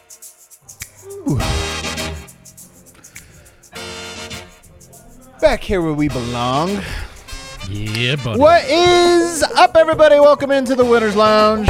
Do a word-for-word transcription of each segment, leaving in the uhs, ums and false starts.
Ooh. Back here where we belong. Yeah, buddy. What is up, everybody? Welcome into the Winners Lounge.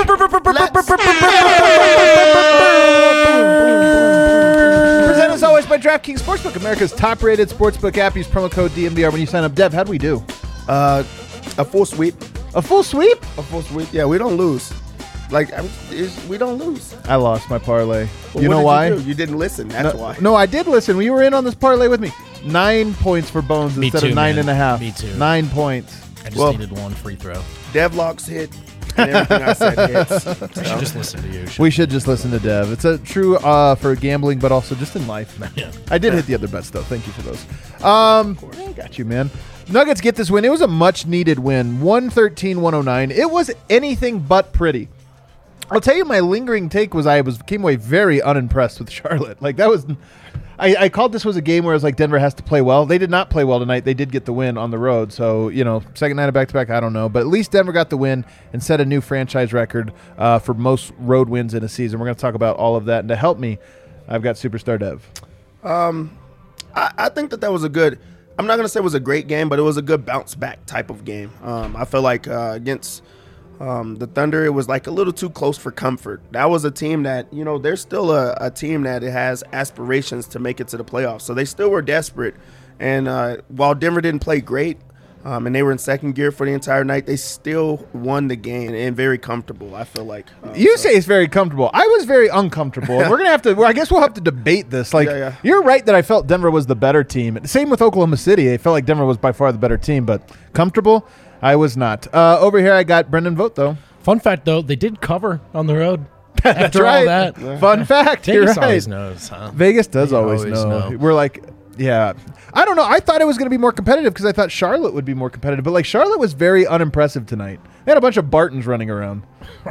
Presented as always by DraftKings Sportsbook, America's top-rated sportsbook app. Use promo code D M V R when you sign up. Dev, how do we do? Uh, a full sweep. A full sweep? A full sweep. Yeah, we don't lose. Like, I'm, it's, we don't lose. I lost my parlay. Well, you what know did why? You, do? You didn't listen. That's no, why. No, I did listen. You were in on this parlay with me. Nine points for Bones Me instead too, of nine man. and a half. Me too. Nine points. I just Well, needed one free throw. Devlocks hit, and everything I said hits. I should just listen to you. We should just listen to Dev. It's a true uh, for gambling, but also just in life. Yeah. I did hit the other bets, though. Thank you for those. Um, I got you, man. Nuggets get this win. It was a much-needed win. one thirteen one oh nine. It was anything but pretty. I'll tell you, my lingering take was I was came away very unimpressed with Charlotte. Like, that was... I, I called this was a game where I was like, Denver has to play well. They did not play well tonight. They did get the win on the road. So, you know, second night of back-to-back, I don't know. But at least Denver got the win and set a new franchise record uh, for most road wins in a season. We're going to talk about all of that. And to help me, I've got Superstar Dev. Um, I, I think that that was a good – I'm not going to say it was a great game, but it was a good bounce-back type of game. Um, I feel like uh, against – Um, the Thunder, it was like a little too close for comfort. That was a team that, you know, they're still a, a team that has aspirations to make it to the playoffs. So they still were desperate. And uh, while Denver didn't play great, um, and they were in second gear for the entire night, they still won the game and very comfortable, I feel like. Um, You so. say it's very comfortable. I was very uncomfortable. And we're going to have to, well, I guess we'll have to debate this. Like, Yeah, yeah. You're right that I felt Denver was the better team. Same with Oklahoma City. I felt like Denver was by far the better team, but comfortable, I was not. Uh, over here, I got Brendan Vogt, though. Fun fact, though, they did cover on the road. That's After right. all that. Fun fact. Vegas You're right. always knows, huh? Vegas does They always, always know. know. We're like, yeah. I don't know. I thought it was going to be more competitive because I thought Charlotte would be more competitive. But, like, Charlotte was very unimpressive tonight. They had a bunch of Bartons running around.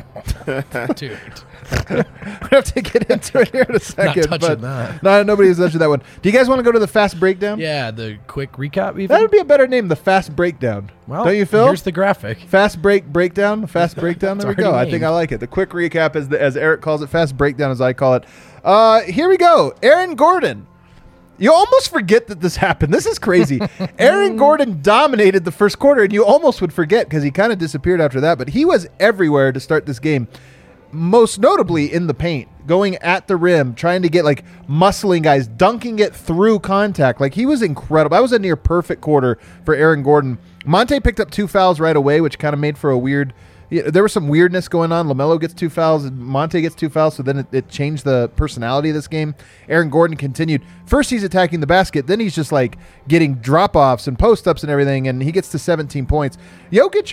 Dude. We have to get into it here in a second. touching but that. No, nobody's touching that one. Do you guys want to go to the fast breakdown? Yeah, the quick recap even? That would be a better name, the fast breakdown. Well, don't you, Phil? here's the graphic. Fast break breakdown, the fast breakdown. There we It's go. I already think I named. like it. The quick recap, as the, as Eric calls it, fast breakdown, as I call it. Uh, here we go. Aaron Gordon. You almost forget that this happened. This is crazy. Aaron Gordon dominated the first quarter, and you almost would forget because he kind of disappeared after that. But he was everywhere to start this game. Most notably in the paint, going at the rim, trying to get like muscling guys, dunking it through contact. Like he was incredible. That was a near perfect quarter for Aaron Gordon. Monte picked up two fouls right away, which kind of made for a weird. Yeah, there was some weirdness going on. LaMelo gets two fouls, and Monte gets two fouls, so then it, it changed the personality of this game. Aaron Gordon continued. First, he's attacking the basket. Then he's just like getting drop-offs and post-ups and everything, and he gets to seventeen points. Jokic,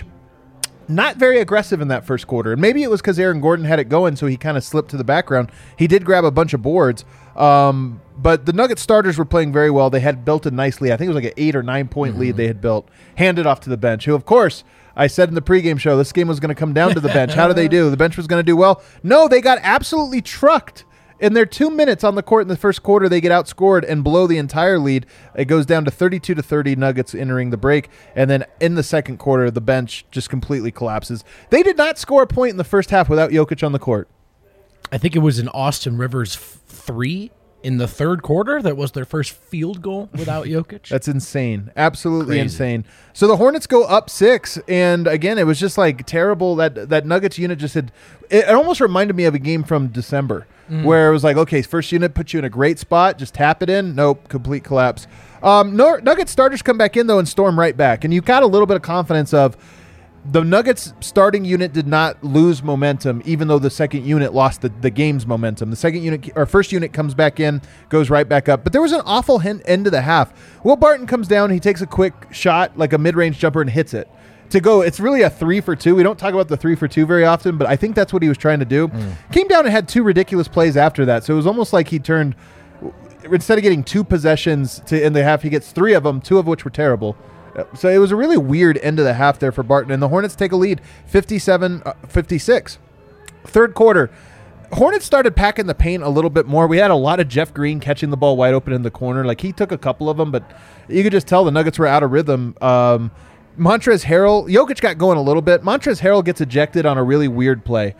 not very aggressive in that first quarter. And maybe it was because Aaron Gordon had it going, so he kind of slipped to the background. He did grab a bunch of boards. Um, but the Nuggets starters were playing very well. They had built a nice lead. I think it was like an eight or nine point mm-hmm. lead they had built, handed off to the bench, who, of course, I said in the pregame show, this game was going to come down to the bench. How did they do? The bench was going to do well. No, they got absolutely trucked. In their two minutes on the court in the first quarter, they get outscored and blow the entire lead. It goes down to thirty-two to thirty, Nuggets entering the break. And then in the second quarter, the bench just completely collapses. They did not score a point in the first half without Jokic on the court. I think it was an Austin Rivers f- three in the third quarter. That was their first field goal without Jokic. That's insane. Absolutely Crazy. insane. So the Hornets go up six, and again, it was just like terrible. That that Nuggets unit just had – it almost reminded me of a game from December mm. where it was like, okay, first unit puts you in a great spot, just tap it in. Nope, complete collapse. Um, Nuggets starters come back in, though, and storm right back. And you've got a little bit of confidence of – the Nuggets starting unit did not lose momentum, even though the second unit lost the, the game's momentum. The second unit, or first unit comes back in, goes right back up. But there was an awful hen- end of the half. Will Barton comes down, he takes a quick shot, like a mid-range jumper, and hits it. To go, it's really a three for two. We don't talk about the three for two very often, but I think that's what he was trying to do. Mm. Came down and had two ridiculous plays after that. So it was almost like he turned, instead of getting two possessions to in the half, he gets three of them, two of which were terrible. So it was a really weird end of the half there for Barton, and the Hornets take a lead, fifty-seven fifty-six. Third quarter, Hornets started packing the paint a little bit more. We had a lot of Jeff Green catching the ball wide open in the corner. Like, he took a couple of them, but you could just tell the Nuggets were out of rhythm. Um, Montrezl Harrell, Jokic got going a little bit. Montrezl Harrell gets ejected on a really weird play.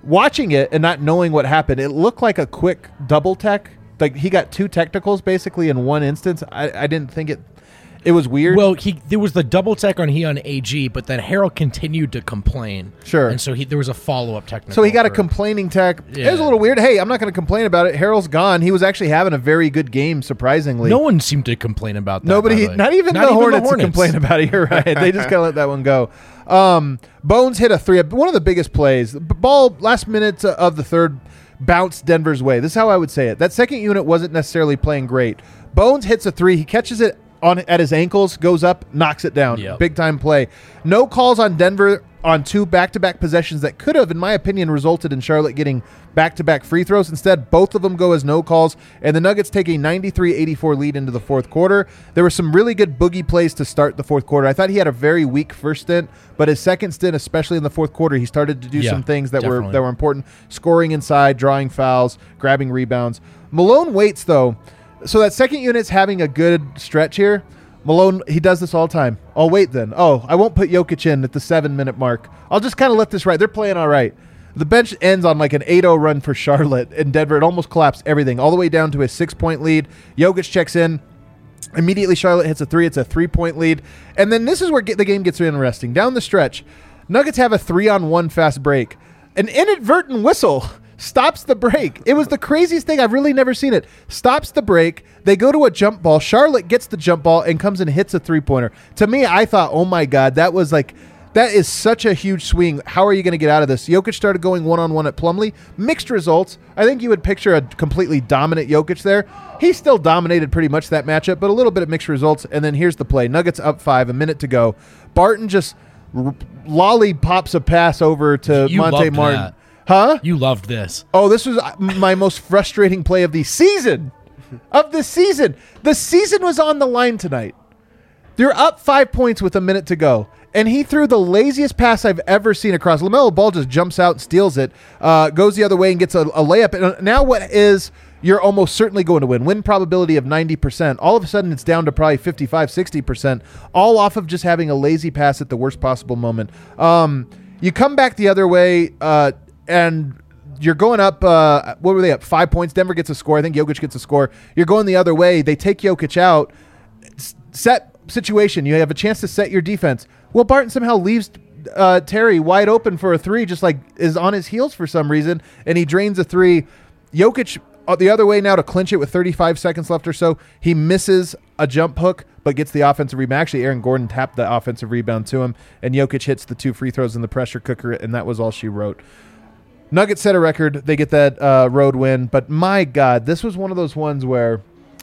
watching it and not knowing what happened, it looked like a quick double tech. Like he got two technicals basically in one instance. I, I didn't think it. It was weird. Well, he there was the double tech on he on A G, but then Harold continued to complain. Sure. And so he there was a follow up technical. So he got a for- complaining tech. It Yeah. was a little weird. Hey, I'm not going to complain about it. Harold's gone. He was actually having a very good game, surprisingly. No one seemed to complain about that. by Nobody, the way. not even, the, Hornets would complain about it. You're right. They just kind of let that one go. Um, Bones hit a three. One of the biggest plays. The ball, last minute of the third, bounced Denver's way. This is how I would say it. That second unit wasn't necessarily playing great. Bones hits a three. He catches it on at his ankles, goes up, knocks it down. Yep. Big time play. No calls on Denver on two back-to-back possessions that could have, in my opinion, resulted in Charlotte getting back-to-back free throws. Instead, both of them go as no calls, and the Nuggets take a ninety-three eighty-four lead into the fourth quarter. There were some really good boogie plays to start the fourth quarter. I thought he had a very weak first stint, but his second stint, especially in the fourth quarter, he started to do Yeah, some things that were definitely. that were important. Scoring inside, drawing fouls, grabbing rebounds. Malone waits, though. So that second unit's having a good stretch here. Malone, he does this all the time. I'll wait then. Oh, I won't put Jokic in at the seven-minute mark. I'll just kind of let this ride. They're playing all right. The bench ends on like an eight oh run for Charlotte in Denver. It almost collapsed everything, all the way down to a six-point lead. Jokic checks in. Immediately, Charlotte hits a three. It's a three-point lead. And then this is where get, the game gets interesting. Down the stretch, Nuggets have a three-on-one fast break. An inadvertent whistle stops the break. It was the craziest thing. I've really never seen it. Stops the break. They go to a jump ball. Charlotte gets the jump ball and comes and hits a three-pointer. To me, I thought, oh, my God, that was like – that is such a huge swing. How are you going to get out of this? Jokic started going one-on-one at Plumlee. Mixed results. I think you would picture a completely dominant Jokic there. He still dominated pretty much that matchup, but a little bit of mixed results. And then here's the play. Nuggets up five, a minute to go. Barton just r- lollipops a pass over to You Monte loved Martin. that. Huh? You loved this. Oh, this was my most frustrating play of the season. Of the season. The season was on the line tonight. They're up five points with a minute to go. And he threw the laziest pass I've ever seen across. LaMelo Ball just jumps out and steals it, uh, goes the other way and gets a, a layup. And now what is you're almost certainly going to win. Win probability of ninety percent. All of a sudden it's down to probably fifty-five, sixty percent, all off of just having a lazy pass at the worst possible moment. Um, you come back the other way, uh, and you're going up, uh, what were they up? Five points. Denver gets a score. I think Jokic gets a score. You're going the other way. They take Jokic out. S- set situation. You have a chance to set your defense. Well, Barton somehow leaves uh, Terry wide open for a three, just like is on his heels for some reason, and he drains a three. Jokic uh, the other way now to clinch it with thirty-five seconds left or so. He misses a jump hook, but gets the offensive rebound. Actually, Aaron Gordon tapped the offensive rebound to him, and Jokic hits the two free throws in the pressure cooker, and that was all she wrote. Nuggets set a record. They get that uh, road win, but my God, this was one of those ones where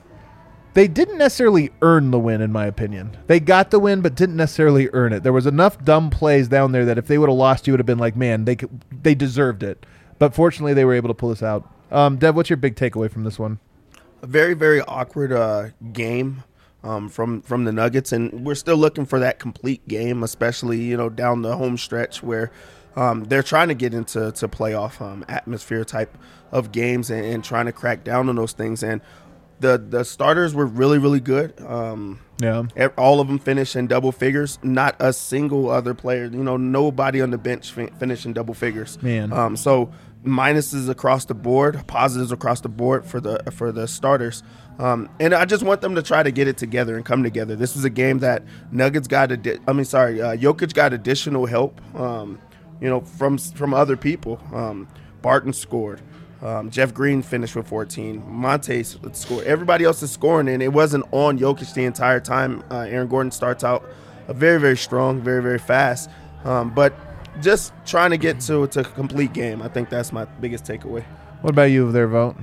they didn't necessarily earn the win, in my opinion. They got the win, but didn't necessarily earn it. There was enough dumb plays down there that if they would have lost, you would have been like, man, they could, they deserved it. But fortunately, they were able to pull this out. Um, Dev, what's your big takeaway from this one? A very, very awkward uh, game um, from from the Nuggets, and we're still looking for that complete game, especially you know down the home stretch where um, they're trying to get into to playoff um, atmosphere type of games and, and trying to crack down on those things. And the the starters were really, really good. Um, Yeah. ev- all of them finished in double figures. Not a single other player, you know, nobody on the bench fin- finished in double figures. Man. Um, so minuses across the board, positives across the board for the for the starters. Um, and I just want them to try to get it together and come together. This was a game that Nuggets got. Adi- I mean, sorry, uh, Jokic got additional help. Um, you know, from from other people. Um, Barton scored. Um, Jeff Green finished with fourteen. Monte scored. Everybody else is scoring, and it wasn't on Jokic the entire time. Uh, Aaron Gordon starts out uh, very, very strong, very, very fast. Um, but just trying to get to, to a complete game. I think that's my biggest takeaway. What about you there, Vote?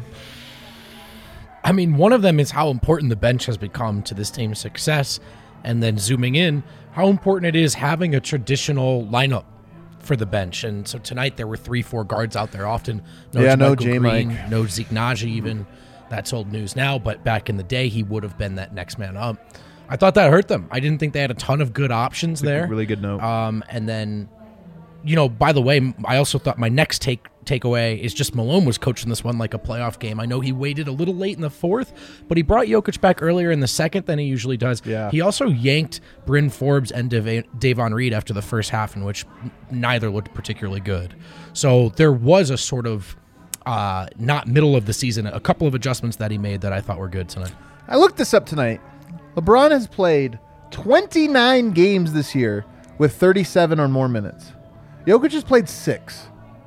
I mean, one of them is how important the bench has become to this team's success. And then zooming in, how important it is having a traditional lineup for the bench. And so tonight there were three, four guards out there often. No Yeah, no JaMychal J. Green, Mike. no Zeke Naji even. That's old news now, but back in the day, he would have been that next man up. I thought that hurt them. I didn't think they had a ton of good options there. Really good note. Um, and then you know, by the way, I also thought my next take takeaway is just Malone was coaching this one like a playoff game. I know he waited a little late in the fourth, but he brought Jokic back earlier in the second than he usually does. Yeah. He also yanked Bryn Forbes and Dave- Davon Reed after the first half, in which neither looked particularly good. So there was a sort of uh, not middle of the season, a couple of adjustments that he made that I thought were good tonight. I looked this up tonight. LeBron has played twenty-nine games this year with thirty-seven or more minutes. Jokic has played six.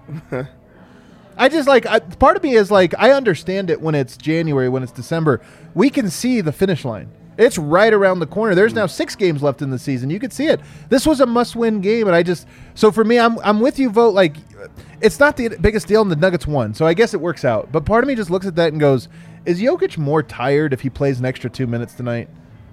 I just like, I, part of me is like, I understand it when it's January, when it's December. We can see the finish line. It's right around the corner. There's now six games left in the season. You could see it. This was a must-win game, and I just, so for me, I'm I'm with you, Vote. Like, it's not the biggest deal, and the Nuggets won, so I guess it works out. But part of me just looks at that and goes, is Jokic more tired if he plays an extra two minutes tonight?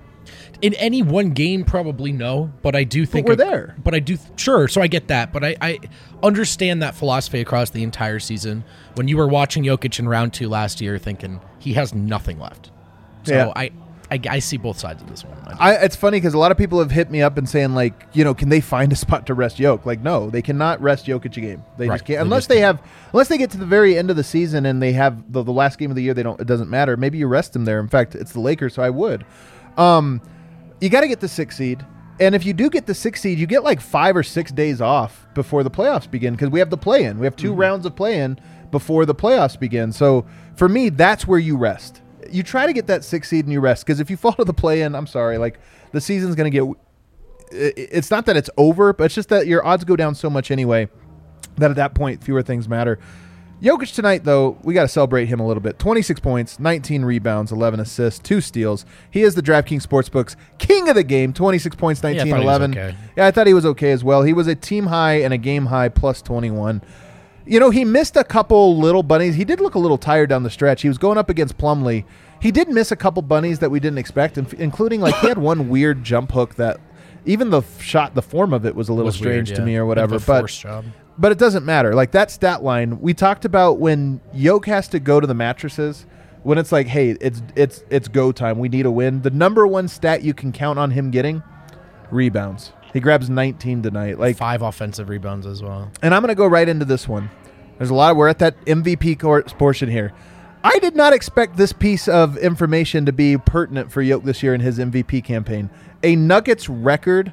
In any one game, probably no, but I do think But we're I- there. But I do, sure. So I get that, but I, I understand that philosophy across the entire season. When you were watching Jokic in round two last year, thinking he has nothing left. So Yeah. I, I, I see both sides of this one. I, it's funny because a lot of people have hit me up and saying, like, you know, can they find a spot to rest Jokic? Like, no, they cannot rest Jokic a game. They Right. just can't They unless just they can't. have unless they get to the very end of the season and they have the, the last game of the year. They don't. It doesn't matter. Maybe you rest them there. In fact, it's the Lakers, so I would. Um, you got to get the sixth seed, and if you do get the sixth seed, you get like five or six days off before the playoffs begin because we have the play-in. We have two Mm-hmm. rounds of play-in before the playoffs begin. So for me, that's where you rest. You try to get that sixth seed and you rest because if you fall to the play-in, I'm sorry, like the season's going to get. it- It's not that it's over, but it's just that your odds go down so much anyway that at that point fewer things matter. Jokic tonight, though, we got to celebrate him a little bit. twenty-six points, nineteen rebounds, eleven assists, two steals. He is the DraftKings Sportsbook's king of the game. twenty-six points, I nineteen, thought he was eleven. okay. Yeah, I thought he was okay as well. He was a team high and a game high plus twenty-one. You know, he missed a couple little bunnies. He did look a little tired down the stretch. He was going up against Plumlee. He did miss a couple bunnies that we didn't expect, inf- including like he had one weird jump hook that even the f- shot, the form of it was a little Was strange weird, to yeah. me or Bit of whatever. a But forced job. but it doesn't matter. Like that stat line, we talked about when Yoke has to go to the mattresses, when it's like, hey, it's it's it's go time. We need a win. The number one stat you can count on him getting, rebounds. He grabs nineteen tonight. Like, Five offensive rebounds as well. and I'm going to go right into this one. There's a lot. Of, we're at that M V P court portion here. I did not expect this piece of information to be pertinent for Yoke this year in his M V P campaign. A Nuggets record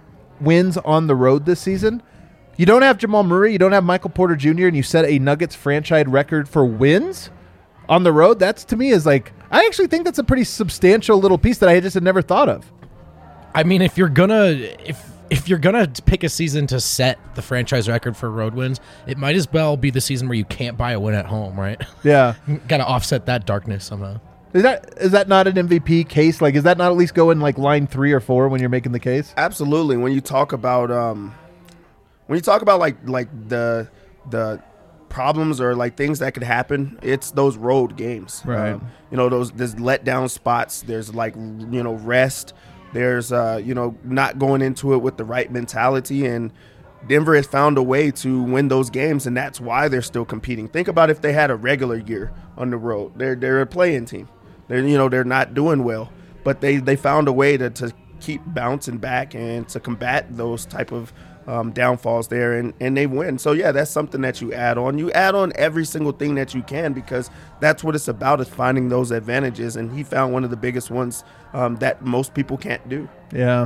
wins on the road this season. You don't have Jamal Murray, you don't have Michael Porter Junior, and you set a Nuggets franchise record for wins on the road. That's, to me, is like, I actually think that's a pretty substantial little piece that I just had never thought of. I mean, if you're gonna if if you're gonna pick a season to set the franchise record for road wins, it might as well be the season where you can't buy a win at home, right? Yeah. Got to offset that darkness somehow. Is that is that not an M V P case? Like, is that not at least go in like line three or four when you're making the case? Absolutely. When you talk about um, when you talk about like like the the problems or like things that could happen, it's those road games. Right. Um, you know, those there's letdown spots. There's like you know rest. There's uh you know not going into it with the right mentality, and Denver has found a way to win those games, and that's why they're still competing. Think about if they had a regular year on the road. They're they're a playing team. They're you know they're not doing well, but they they found a way to to keep bouncing back and to combat those type of um, downfalls there, and, and they win. So, yeah, that's something that you add on. You add on every single thing that you can because that's what it's about is finding those advantages, and he found one of the biggest ones um, that most people can't do. Yeah.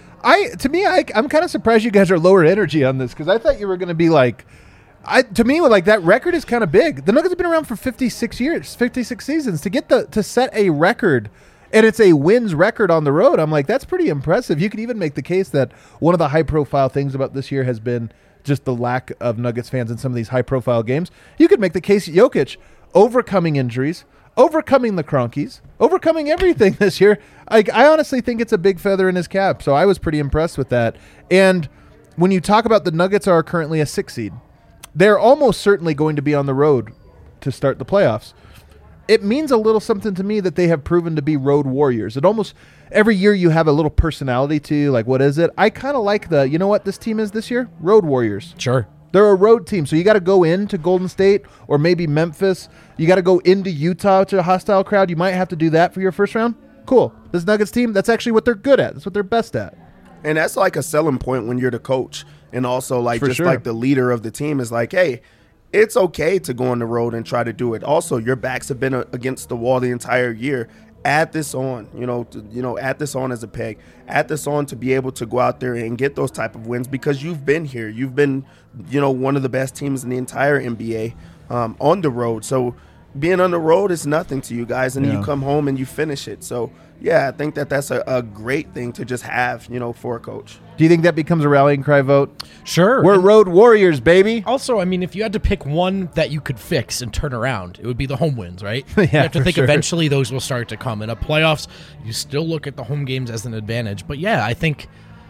I to me, I, I'm kind of surprised you guys are lower energy on this because I thought you were going to be like, I to me, like that record is kind of big. The Nuggets have been around for fifty-six years, fifty-six seasons to get the to set a record. And it's a wins record on the road. I'm like, that's pretty impressive. You could even make the case that one of the high-profile things about this year has been just the lack of Nuggets fans in some of these high-profile games. You could make the case Jokic overcoming injuries, overcoming the Cronkies, overcoming everything this year. I, I honestly think it's a big feather in his cap. So I was pretty impressed with that. And when you talk about the Nuggets are currently a six seed, they're almost certainly going to be on the road to start the playoffs. It means a little something to me that they have proven to be road warriors. It almost every year you have a little personality to you. Like, what is it? I kind of like the, you know what this team is this year? Road warriors. Sure. They're a road team. So you got to go into Golden State or maybe Memphis. You got to go into Utah to a hostile crowd. You might have to do that for your first round. Cool. This Nuggets team, that's actually what they're good at. That's what they're best at. And that's like a selling point when you're the coach and also like For just sure. like the leader of the team is like, hey, it's okay to go on the road and try to do it. Also, your backs have been a, against the wall the entire year. Add this on, you know, to, you know, add this on as a peg. Add this on to be able to go out there and get those type of wins because you've been here. You've been, you know, one of the best teams in the entire N B A um, on the road. So being on the road is nothing to you guys, and Yeah. you come home and you finish it. So yeah, I think that that's a, a great thing to just have, you know, for a coach. Do you think that becomes a rallying cry vote? Sure. We're And road warriors, baby. also, I mean, if you had to pick one that you could fix and turn around, it would be the home wins, right? Yeah, you have to for think sure. eventually those will start to come. In a playoffs, you still look at the home games as an advantage. But yeah, I think,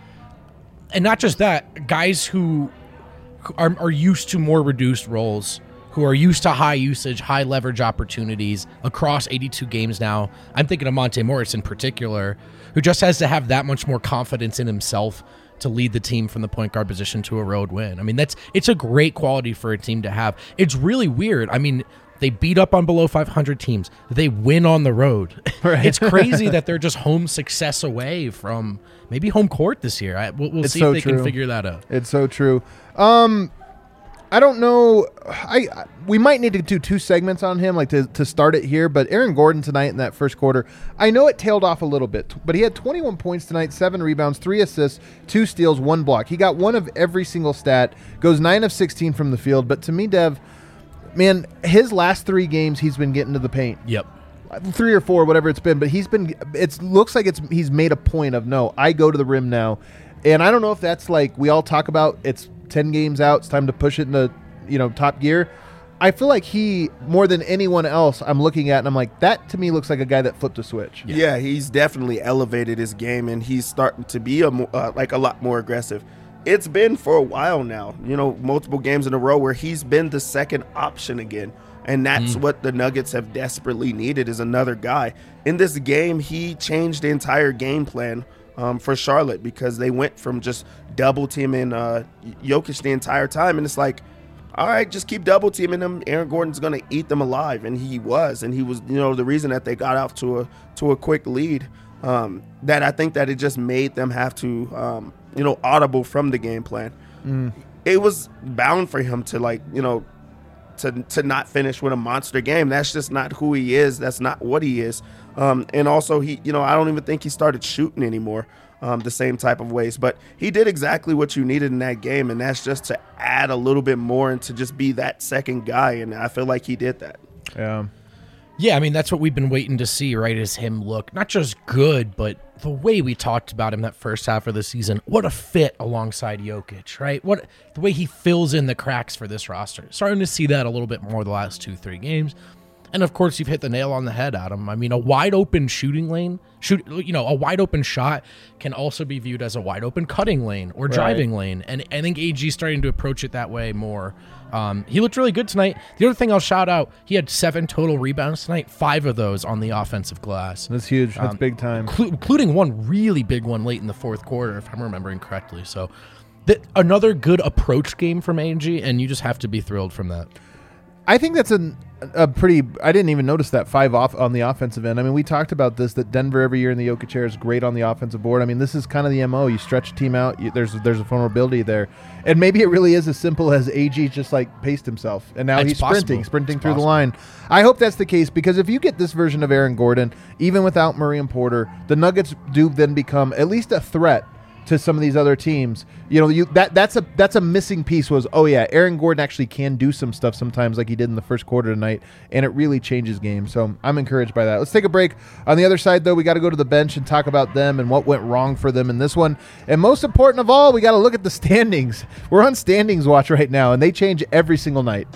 and not just that, guys who are, are used to more reduced roles, who are used to high usage, high leverage opportunities across eighty-two games now. I'm thinking of Monte Morris in particular, who just has to have that much more confidence in himself to lead the team from the point guard position to a road win. I mean, that's it's a great quality for a team to have. It's really weird. I mean, they beat up on below five hundred teams. They win on the road. Right. It's crazy that they're just home success away from maybe home court this year. I, we'll we'll It's see so if they true. can figure that out. It's so true. Um, I don't know. I, I we might need to do two segments on him, like to, to start it here. But Aaron Gordon tonight in that first quarter, I know it tailed off a little bit, but he had twenty-one points tonight, seven rebounds, three assists, two steals, one block. He got one of every single stat. Goes nine of sixteen from the field. But to me, Dev, man, his last three games, he's been getting to the paint. Yep. Three or four, whatever it's been, but he's been. It looks like it's he's made a point of no. I go to the rim now, and I don't know if that's like we all talk about. It's ten games out. It's time to push it into you know top gear. I feel like he more than anyone else I'm looking at, and I'm like that to me looks like a guy that flipped a switch. Yeah, yeah he's definitely elevated his game, and he's starting to be a mo- uh, like a lot more aggressive. It's been for a while now, you know, multiple games in a row where he's been the second option again. And that's mm. what the Nuggets have desperately needed is another guy. In this game, he changed the entire game plan um, for Charlotte because they went from just double teaming uh, Jokic the entire time. And it's like, all right, just keep double teaming him. Aaron Gordon's going to eat them alive. And he was. And he was, you know, the reason that they got out to a to a quick lead um, that I think that it just made them have to, um, you know, audible from the game plan. Mm. It was bound for him to, like, you know, to to not finish with a monster game. That's just not who he is. That's not what he is. Um, and also, he, you know, I don't even think he started shooting anymore um, the same type of ways. But he did exactly what you needed in that game, and that's just to add a little bit more and to just be that second guy. And I feel like he did that. Yeah. Yeah, I mean, that's what we've been waiting to see, right, is him look not just good, but the way we talked about him that first half of the season. What a fit alongside Jokic, right? What the way he fills in the cracks for this roster. Starting to see that a little bit more the last two, three games. And, of course, you've hit the nail on the head, Adam. I mean, a wide-open shooting lane, shoot, you know, a wide-open shot can also be viewed as a wide-open cutting lane or driving right. lane. And I think A G's starting to approach it that way more. Um, he looked really good tonight. The other thing I'll shout out, he had seven total rebounds tonight, five of those on the offensive glass. That's huge. That's um, big time. Cl- including one really big one late in the fourth quarter, if I'm remembering correctly. So th- another good approach game from A G, and you just have to be thrilled from that. I think that's an, a pretty – I didn't even notice that five off on the offensive end. I mean, we talked about this, that Denver every year in the Jokic era is great on the offensive board. I mean, this is kind of the M O. You stretch a team out. You, there's there's a vulnerability there. And maybe it really is as simple as A G just, like, paced himself. And now it's he's possible. sprinting, sprinting it's through possible. the line. I hope that's the case because if you get this version of Aaron Gordon, even without Murray and Porter, the Nuggets do then become at least a threat to some of these other teams. You know, you that that's a that's a missing piece was, oh yeah, Aaron Gordon actually can do some stuff sometimes like he did in the first quarter tonight, and it really changes games. So I'm encouraged by that. Let's take a break. On the other side, though, we got to go to the bench and talk about them and what went wrong for them in this one. And most important of all, we got to look at the standings. We're on standings watch right now, and they change every single night.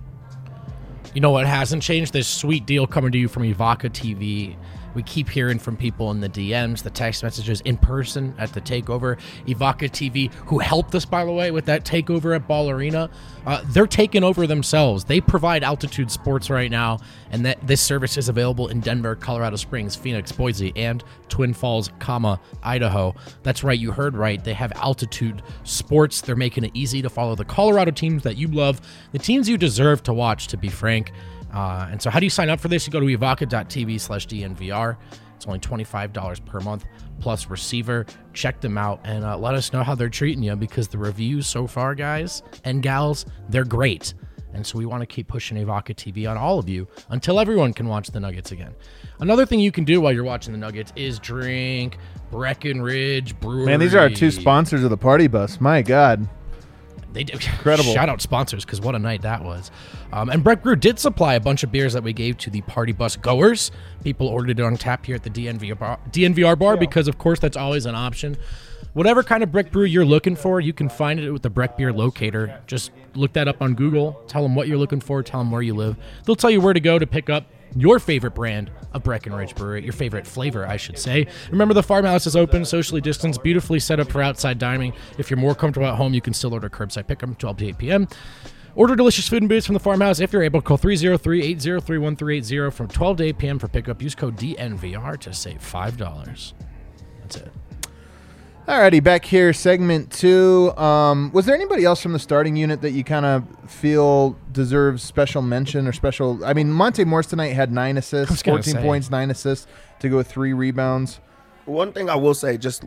You know what hasn't changed? This sweet deal coming to you from Evoca T V. We keep hearing from people in the D Ms, the text messages, in person at the takeover. Evoca T V, who helped us, by the way, with that takeover at Ball Arena, uh, they're taking over themselves. They provide altitude sports right now, and that this service is available in Denver, Colorado Springs, Phoenix, Boise, and Twin Falls, comma, Idaho. That's right, you heard right. They have altitude sports. They're making it easy to follow the Colorado teams that you love, the teams you deserve to watch, to be frank. Uh, and so how do you sign up for this? You go to evoca dot t v slash D N V R. It's only twenty-five dollars per month plus receiver. Check them out and uh, let us know how they're treating you, because the reviews so far, guys and gals, they're great. And so we want to keep pushing Evoca T V on all of you until everyone can watch the Nuggets again. Another thing you can do while you're watching the Nuggets is drink Breckenridge Brewery. Man, these are our two sponsors of the party bus. My God. They did. Incredible. Shout out sponsors, because what a night that was. Um, and Breck Brew did supply a bunch of beers that we gave to the party bus goers. People ordered it on tap here at the D N V R bar, D N V R bar, yeah. because, of course, that's always an option. Whatever kind of Breck Brew you're looking for, you can find it with the Breck Beer Locator. Just look that up on Google. Tell them what you're looking for. Tell them where you live. They'll tell you where to go to pick up your favorite brand of Breckenridge Brewery, your favorite flavor, I should say. Remember, the farmhouse is open, socially distanced, beautifully set up for outside dining. If you're more comfortable at home, you can still order curbside pickup twelve to eight p.m. Order delicious food and booze from the farmhouse. If you're able, call three oh three, eight oh three, one three eight zero from twelve to eight p.m. for pickup. Use code D N V R to save five dollars. That's it. Alrighty, back here, segment two. Um, was there anybody else from the starting unit that you kind of feel deserves special mention or special? I mean, Monte Morris tonight had nine assists, fourteen say. points, nine assists to go with three rebounds. One thing I will say, just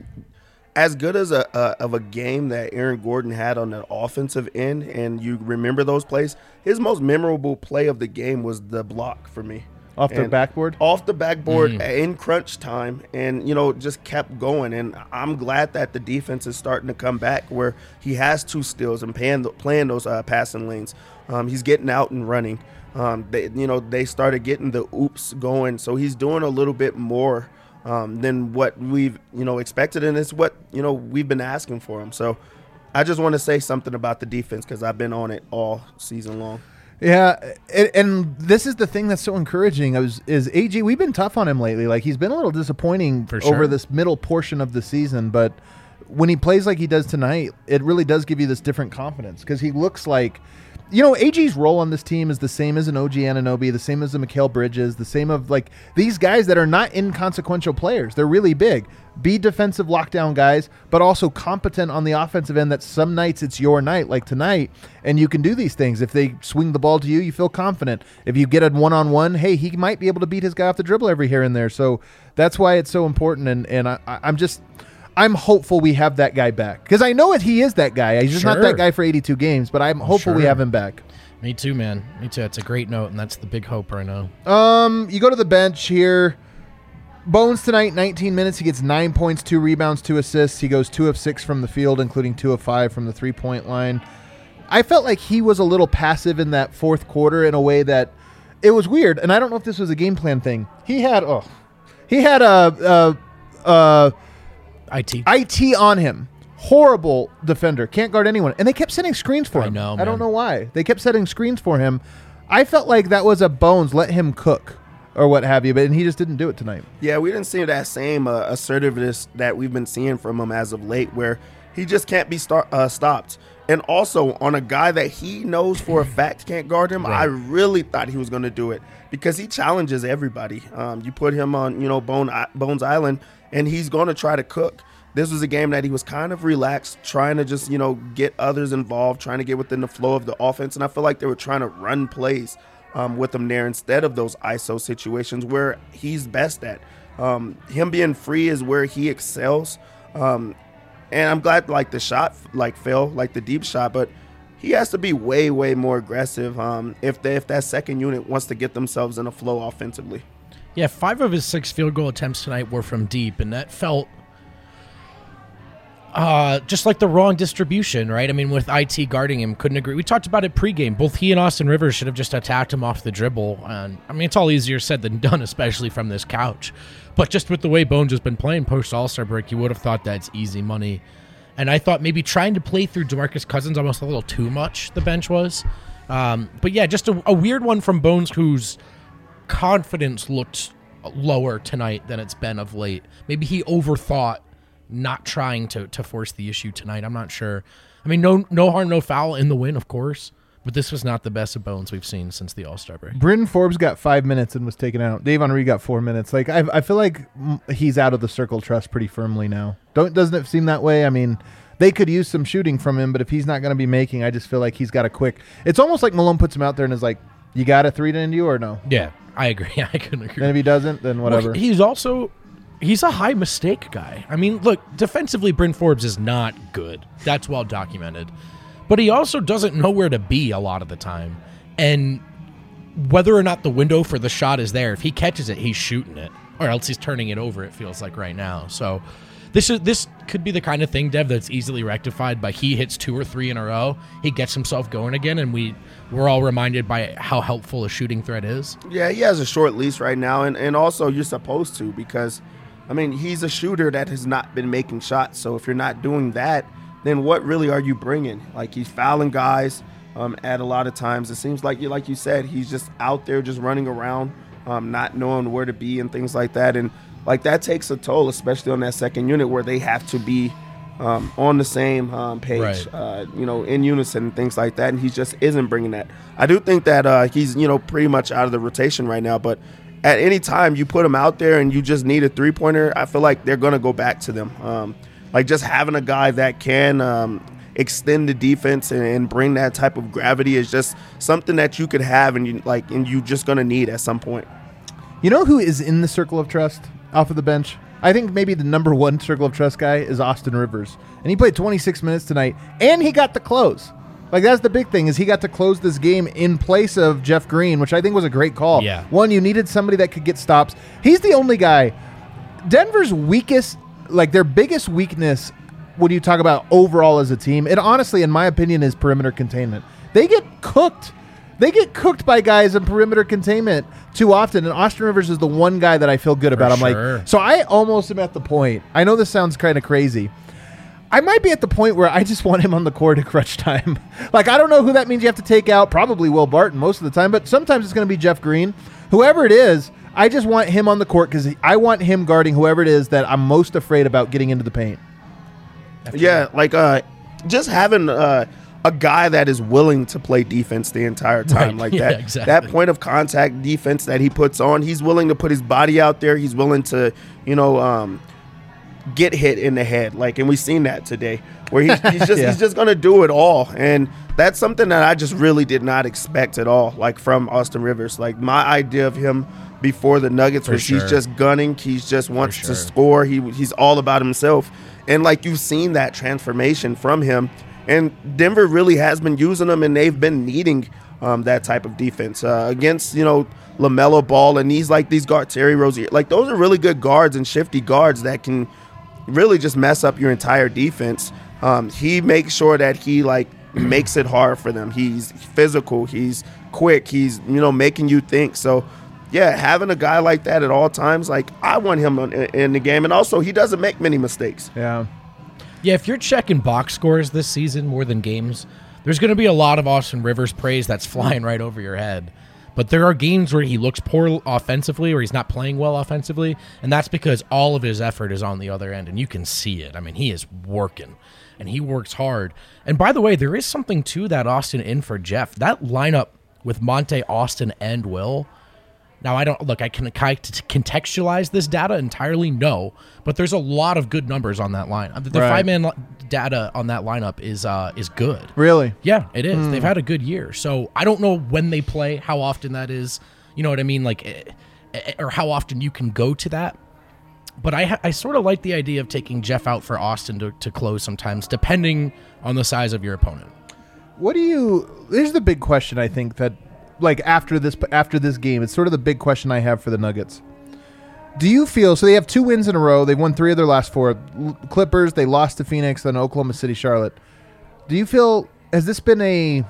as good as a, a of a game that Aaron Gordon had on the offensive end, and you remember those plays, his most memorable play of the game was the block for me. Off the and backboard? Off the backboard mm. in crunch time, and, you know, just kept going. And I'm glad that the defense is starting to come back, where he has two steals and playing, playing those uh, passing lanes. Um, he's getting out and running. Um, they, you know, they started getting the oops going, so he's doing a little bit more um, than what we've, you know, expected, and it's what, you know, we've been asking for him. So I just want to say something about the defense, because I've been on it all season long. Yeah, and, and this is the thing that's so encouraging. I was is A G. We've been tough on him lately. Like, he's been a little disappointing For sure. over this middle portion of the season, but when he plays like he does tonight, it really does give you this different confidence, because he looks like, you know, A G's role on this team is the same as an O G Anunoby, the same as a Mikal Bridges, the same of, like, these guys that are not inconsequential players. They're really big. Be defensive lockdown guys, but also competent on the offensive end, that some nights it's your night, like tonight, and you can do these things. If they swing the ball to you, you feel confident. If you get a one-on-one, hey, he might be able to beat his guy off the dribble every here and there. So that's why it's so important, and, and I, I'm just – I'm hopeful we have that guy back, because I know it. He is that guy. He's just sure. not that guy for eighty-two games, but I'm hopeful sure. we have him back. Me too, man. Me too. It's a great note, and that's the big hope right now. Um, you go to the bench here. Bones tonight, nineteen minutes. He gets nine points, two rebounds, two assists. He goes two of six from the field, including two of five from the three-point line. I felt like he was a little passive in that fourth quarter in a way that it was weird, and I don't know if this was a game plan thing. He had oh, he had a. a, a I T. I T on him. Horrible defender. Can't guard anyone. And they kept setting screens for him. I know, I don't man. know why. They kept setting screens for him. I felt like that was a Bones, let him cook or what have you, but and he just didn't do it tonight. Yeah, we didn't see that same uh, assertiveness that we've been seeing from him as of late, where he just can't be start, uh, stopped. And also, on a guy that he knows for a fact can't guard him, right. I really thought he was going to do it, because he challenges everybody. Um, you put him on, you know, Bone, Bones Island, and he's going to try to cook. This was a game that he was kind of relaxed, trying to just, you know, get others involved, trying to get within the flow of the offense. And I feel like they were trying to run plays um, with him there instead of those I S O situations where he's best at. Um, him being free is where he excels. Um, and I'm glad, like, the shot, like, fell, like the deep shot, but he has to be way, way more aggressive um, if they, if that second unit wants to get themselves in a flow offensively. Yeah, five of his six field goal attempts tonight were from deep, and that felt uh, just like the wrong distribution, right? I mean, with I T guarding him, couldn't agree. We talked about it pregame. Both he and Austin Rivers should have just attacked him off the dribble. And I mean, it's all easier said than done, especially from this couch. But just with the way Bones has been playing post All-Star break, you would have thought that's easy money. And I thought maybe trying to play through DeMarcus Cousins almost a little too much, the bench was. Um, but yeah, just a, a weird one from Bones, whose confidence looked lower tonight than it's been of late. Maybe he overthought not trying to to force the issue tonight. I'm not sure. I mean, no no harm, no foul in the win, of course. But this was not the best of Bones we've seen since the All-Star break. Bryn Forbes got five minutes and was taken out. Davon Reed got four minutes. Like I, I feel like he's out of the circle trust pretty firmly now. Don't doesn't it seem that way? I mean, they could use some shooting from him, but if he's not going to be making, I just feel like he's got a quick. It's almost like Malone puts him out there and is like, "You got a three to end you or no?" Yeah, I agree. I couldn't agree. And if he doesn't, then whatever. Well, he's also he's a high mistake guy. I mean, look, defensively, Bryn Forbes is not good. That's well documented. But he also doesn't know where to be a lot of the time. And whether or not the window for the shot is there, if he catches it, he's shooting it. Or else he's turning it over, it feels like right now. So this is this could be the kind of thing, Dev, that's easily rectified by he hits two or three in a row. He gets himself going again, and we, we're all reminded by how helpful a shooting threat is. Yeah, he has a short leash right now, and, and also you're supposed to because, I mean, he's a shooter that has not been making shots. So if you're not doing that, then what really are you bringing? Like, he's fouling guys um, at a lot of times. It seems like, like you said, he's just out there just running around, um, not knowing where to be and things like that. And, like, that takes a toll, especially on that second unit where they have to be um, on the same um, page, Right. uh, you know, in unison and things like that. And he just isn't bringing that. I do think that uh, he's, you know, pretty much out of the rotation right now. But at any time you put him out there and you just need a three-pointer, I feel like they're going to go back to them. Um, like, just having a guy that can um, extend the defense and, and bring that type of gravity is just something that you could have and, you, like, and you're just going to need at some point. You know who is in the circle of trust off of the bench? I think maybe the number one circle of trust guy is Austin Rivers. And he played twenty-six minutes tonight, and he got the close. Like, that's the big thing, is he got to close this game in place of Jeff Green, which I think was a great call. Yeah. One, you needed somebody that could get stops. He's the only guy. Denver's weakest, like their biggest weakness when you talk about overall as a team, it honestly, in my opinion, is perimeter containment. They get cooked. They get cooked by guys in perimeter containment too often, and Austin Rivers is the one guy that I feel good about. I'm sure. like, so I almost am at the point. I know this sounds kind of crazy. I might be at the point where I just want him on the court at crunch time. Like, I don't know who that means you have to take out. Probably Will Barton most of the time, but sometimes it's going to be Jeff Green. Whoever it is, I just want him on the court because I want him guarding whoever it is that I'm most afraid about getting into the paint. Yeah, like uh, just having uh, a guy that is willing to play defense the entire time, Right. like Yeah, that. exactly. That point of contact defense that he puts on, he's willing to put his body out there. He's willing to, you know, um, get hit in the head. Like, and we've seen that today, where he's, he's just Yeah. he's just gonna do it all, and that's something that I just really did not expect at all. Like from Austin Rivers, like my idea of him before the Nuggets For was sure. he's just gunning. He's just wants sure. to score. He he's all about himself. And like you've seen that transformation from him, and Denver really has been using him, and they've been needing um, that type of defense uh, against you know LaMelo Ball and these like these guards, Terry Rozier. Like those are really good guards and shifty guards that can really just mess up your entire defense. Um, he makes sure that he like makes it hard for them. He's physical. He's quick. He's you know making you think. So. Yeah, having a guy like that at all times, like I want him in, in the game, and also he doesn't make many mistakes. Yeah. Yeah, if you're checking box scores this season more than games, there's going to be a lot of Austin Rivers praise that's flying right over your head. But there are games where he looks poor offensively, or he's not playing well offensively, and that's because all of his effort is on the other end, and you can see it. I mean, he is working, and he works hard. And by the way, there is something to that Austin in for Jeff. That lineup with Monte, Austin, and Will. Now, I don't look, I can contextualize this data entirely, no, but there's a lot of good numbers on that line. The Right. five-man li- data on that lineup is uh, is good. Really? Yeah, it is. They've had a good year. So I don't know when they play, how often that is, you know what I mean? Like, eh, eh, or how often you can go to that. But I, ha- I sort of like the idea of taking Jeff out for Austin to, to close sometimes, depending on the size of your opponent. What do you? Here's the big question. I think that, like after this, after this game, it's sort of the big question I have for the Nuggets. Do you feel so? They have two wins in a row. They've won three of their last four. L- Clippers. They lost to Phoenix, then Oklahoma City, Charlotte. Do you feel has this been a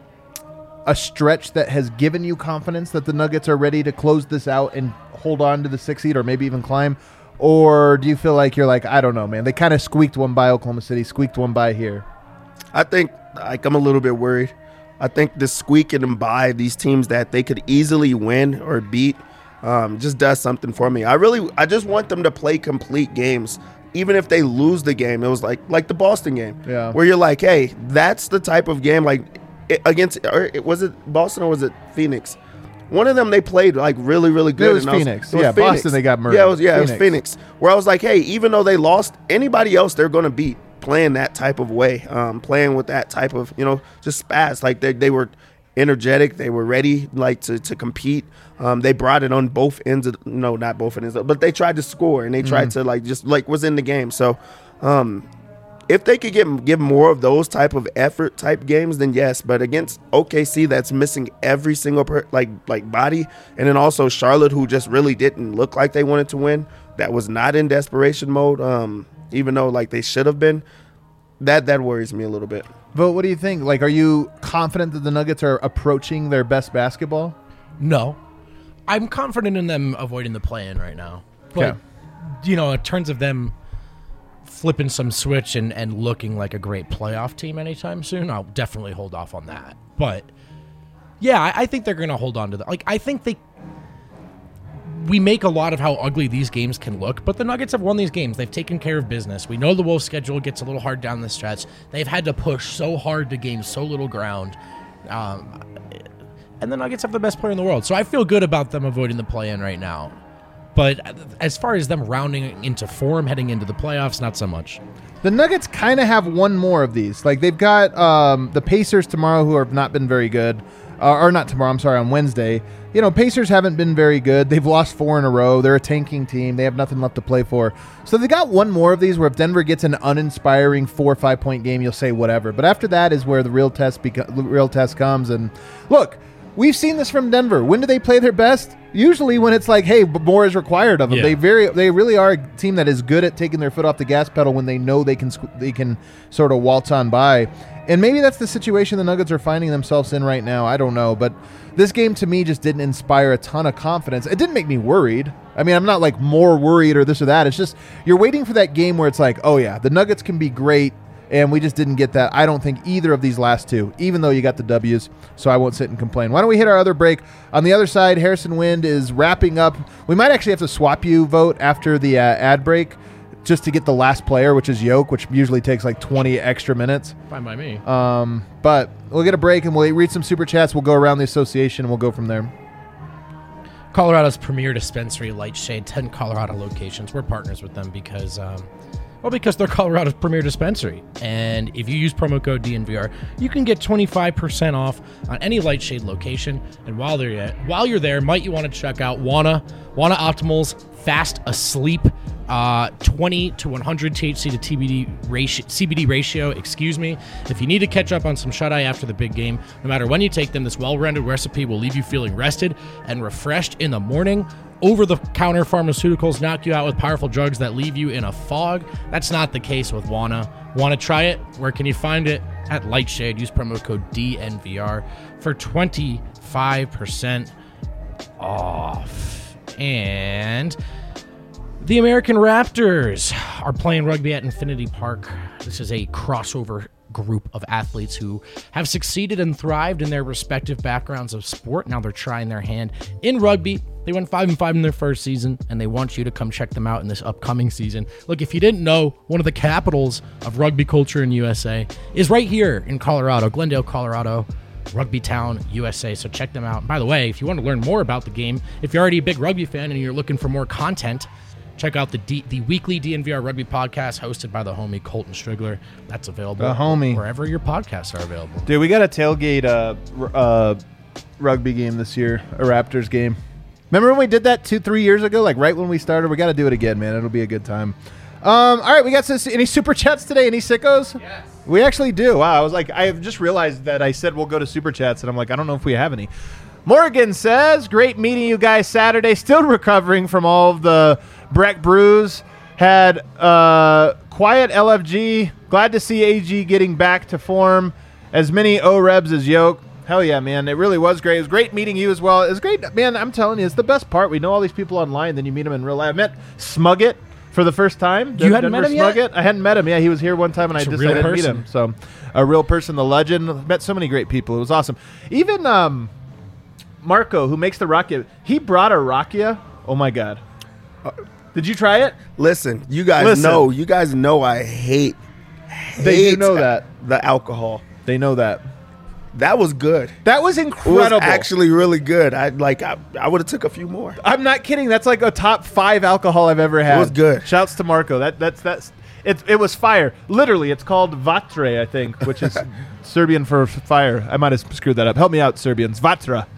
a stretch that has given you confidence that the Nuggets are ready to close this out and hold on to the sixth seed, or maybe even climb? Or do you feel like you're like, I don't know, man? They kind of squeaked one by Oklahoma City, squeaked one by here. I think like I'm a little bit worried. I think the squeaking and by these teams that they could easily win or beat um, just does something for me. I really, I just want them to play complete games, even if they lose the game. It was like like the Boston game, Yeah. where you're like, hey, that's the type of game like it, against. Or it, was it Boston or was it Phoenix? One of them they played like really, really good. It was and I Phoenix. it was Yeah, Boston, they got murdered. Yeah, it was, yeah, Phoenix. it was Phoenix. Where I was like, hey, even though they lost, anybody else they're going to beat playing that type of way, um, playing with that type of, you know, just spaz. Like they, they were energetic. They were ready, like to to compete. Um, they brought it on both ends of no, not both ends, but they tried to score and they tried mm-hmm. to like just like was in the game. So, um, if they could get give more of those type of effort type games, then yes. But against O K C, that's missing every single per, like like body, and then also Charlotte, who just really didn't look like they wanted to win. That was not in desperation mode, um, even though like they should have been. That that worries me a little bit. But what do you think? Like, are you confident that the Nuggets are approaching their best basketball? No. I'm confident in them avoiding the play-in right now. But, okay. you know, in terms of them flipping some switch and, and looking like a great playoff team anytime soon, I'll definitely hold off on that. But, yeah, I, I think they're going to hold on to that. Like, I think they... We make a lot of how ugly these games can look, but the Nuggets have won these games. They've taken care of business. We know the Wolves' schedule gets a little hard down the stretch. They've had to push so hard to gain so little ground. Um... And the Nuggets have the best player in the world. So I feel good about them avoiding the play-in right now. But as far as them rounding into form heading into the playoffs, not so much. The Nuggets kind of have one more of these. Like, they've got um, the Pacers tomorrow, who have not been very good. Uh, or not tomorrow, I'm sorry, on Wednesday. You know, Pacers haven't been very good. They've lost four in a row. They're a tanking team. They have nothing left to play for. So they got one more of these where if Denver gets an uninspiring four or five-point game, you'll say whatever. But after that is where the real test, beca- real test comes. And look, we've seen this from Denver. When do they play their best? Usually when it's like, hey, more is required of them. Yeah. They very, they really are a team that is good at taking their foot off the gas pedal when they know they can, they can sort of waltz on by. And maybe that's the situation the Nuggets are finding themselves in right now. I don't know. But this game to me just didn't inspire a ton of confidence. It didn't make me worried. I mean, I'm not like more worried or this or that. It's just you're waiting for that game where it's like, oh, yeah, the Nuggets can be great. And we just didn't get that. I don't think either of these last two, even though you got the W's, so I won't sit and complain. Why don't we hit our other break? On the other side, Harrison Wind is wrapping up. We might actually have to swap you vote after the uh, ad break just to get the last player, which is Yoke, which usually takes like twenty extra minutes. Fine by me. Um, but we'll get a break, and we'll read some Super Chats. We'll go around the association, and we'll go from there. Colorado's premier dispensary, Lightshade, ten Colorado locations. We're partners with them because... Um, Well, because they're Colorado's premier dispensary. And if you use promo code D N V R, you can get twenty-five percent off on any Lightshade location. And while they're at, while you're there, might you want to check out Wana, Wana Optimal's Fast Asleep, uh, twenty to one hundred T H C to T B D ratio, C B D ratio, excuse me. If you need to catch up on some shut-eye after the big game, no matter when you take them, this well-rounded recipe will leave you feeling rested and refreshed in the morning. Over-the-counter pharmaceuticals knock you out with powerful drugs that leave you in a fog. That's not the case with Wana. Want to try it? Where can you find it? At Lightshade. Use promo code D N V R for twenty-five percent off. And the American Raptors are playing rugby at Infinity Park. This is a crossover group of athletes who have succeeded and thrived in their respective backgrounds of sport. Now they're trying their hand in rugby. They went five and five in their first season, and they want you to come check them out in this upcoming season. Look, if you didn't know, one of the capitals of rugby culture in U S A is right here in Colorado, Glendale, Colorado, Rugby Town, U S A. So check them out. And by the way, if you want to learn more about the game, if you're already a big rugby fan and you're looking for more content, check out the D, the weekly D N V R Rugby podcast hosted by the homie Colton Strigler. That's available the homie. wherever your podcasts are available. Dude, we got a tailgate uh, uh, rugby game this year, a Raptors game. Remember when we did that two, three years ago? Like right when we started? We got to do it again, man. It'll be a good time. Um, all right, we got some, any Super Chats today? Any sickos? Yes. We actually do. Wow, I was like, I just realized that I said we'll go to Super Chats, and I'm like, I don't know if we have any. Morgan says, great meeting you guys Saturday. Still recovering from all of the Breck brews. Had uh, quiet L F G. Glad to see A G getting back to form. As many O-Rebs as Yoke. Hell yeah, man. It really was great. It was great meeting you as well. It was great. Man, I'm telling you, it's the best part. We know all these people online, then you meet them in real life. I met Smuggett for the first time. You hadn't met him Smuggett. yet? I hadn't met him. Yeah, he was here one time, and It's I a just real I didn't person. meet him. So, a real person, the legend. Met so many great people. It was awesome. Even um, Marco, who makes the rakia, he brought a rakia. Oh, my God. Uh, did you try it? Listen, you guys Listen. know. You guys know I hate, hate They do know that. the alcohol. They know that. That was good. That was It incredible. was actually really good. I like. I, I would have took a few more. I'm not kidding. That's like a top five alcohol I've ever had. It was good. Shouts to Marco. That that's that's. It, it was fire. Literally, it's called Vatre, I think, which is Serbian for fire. I might have screwed that up. Help me out, Serbians. Vatra.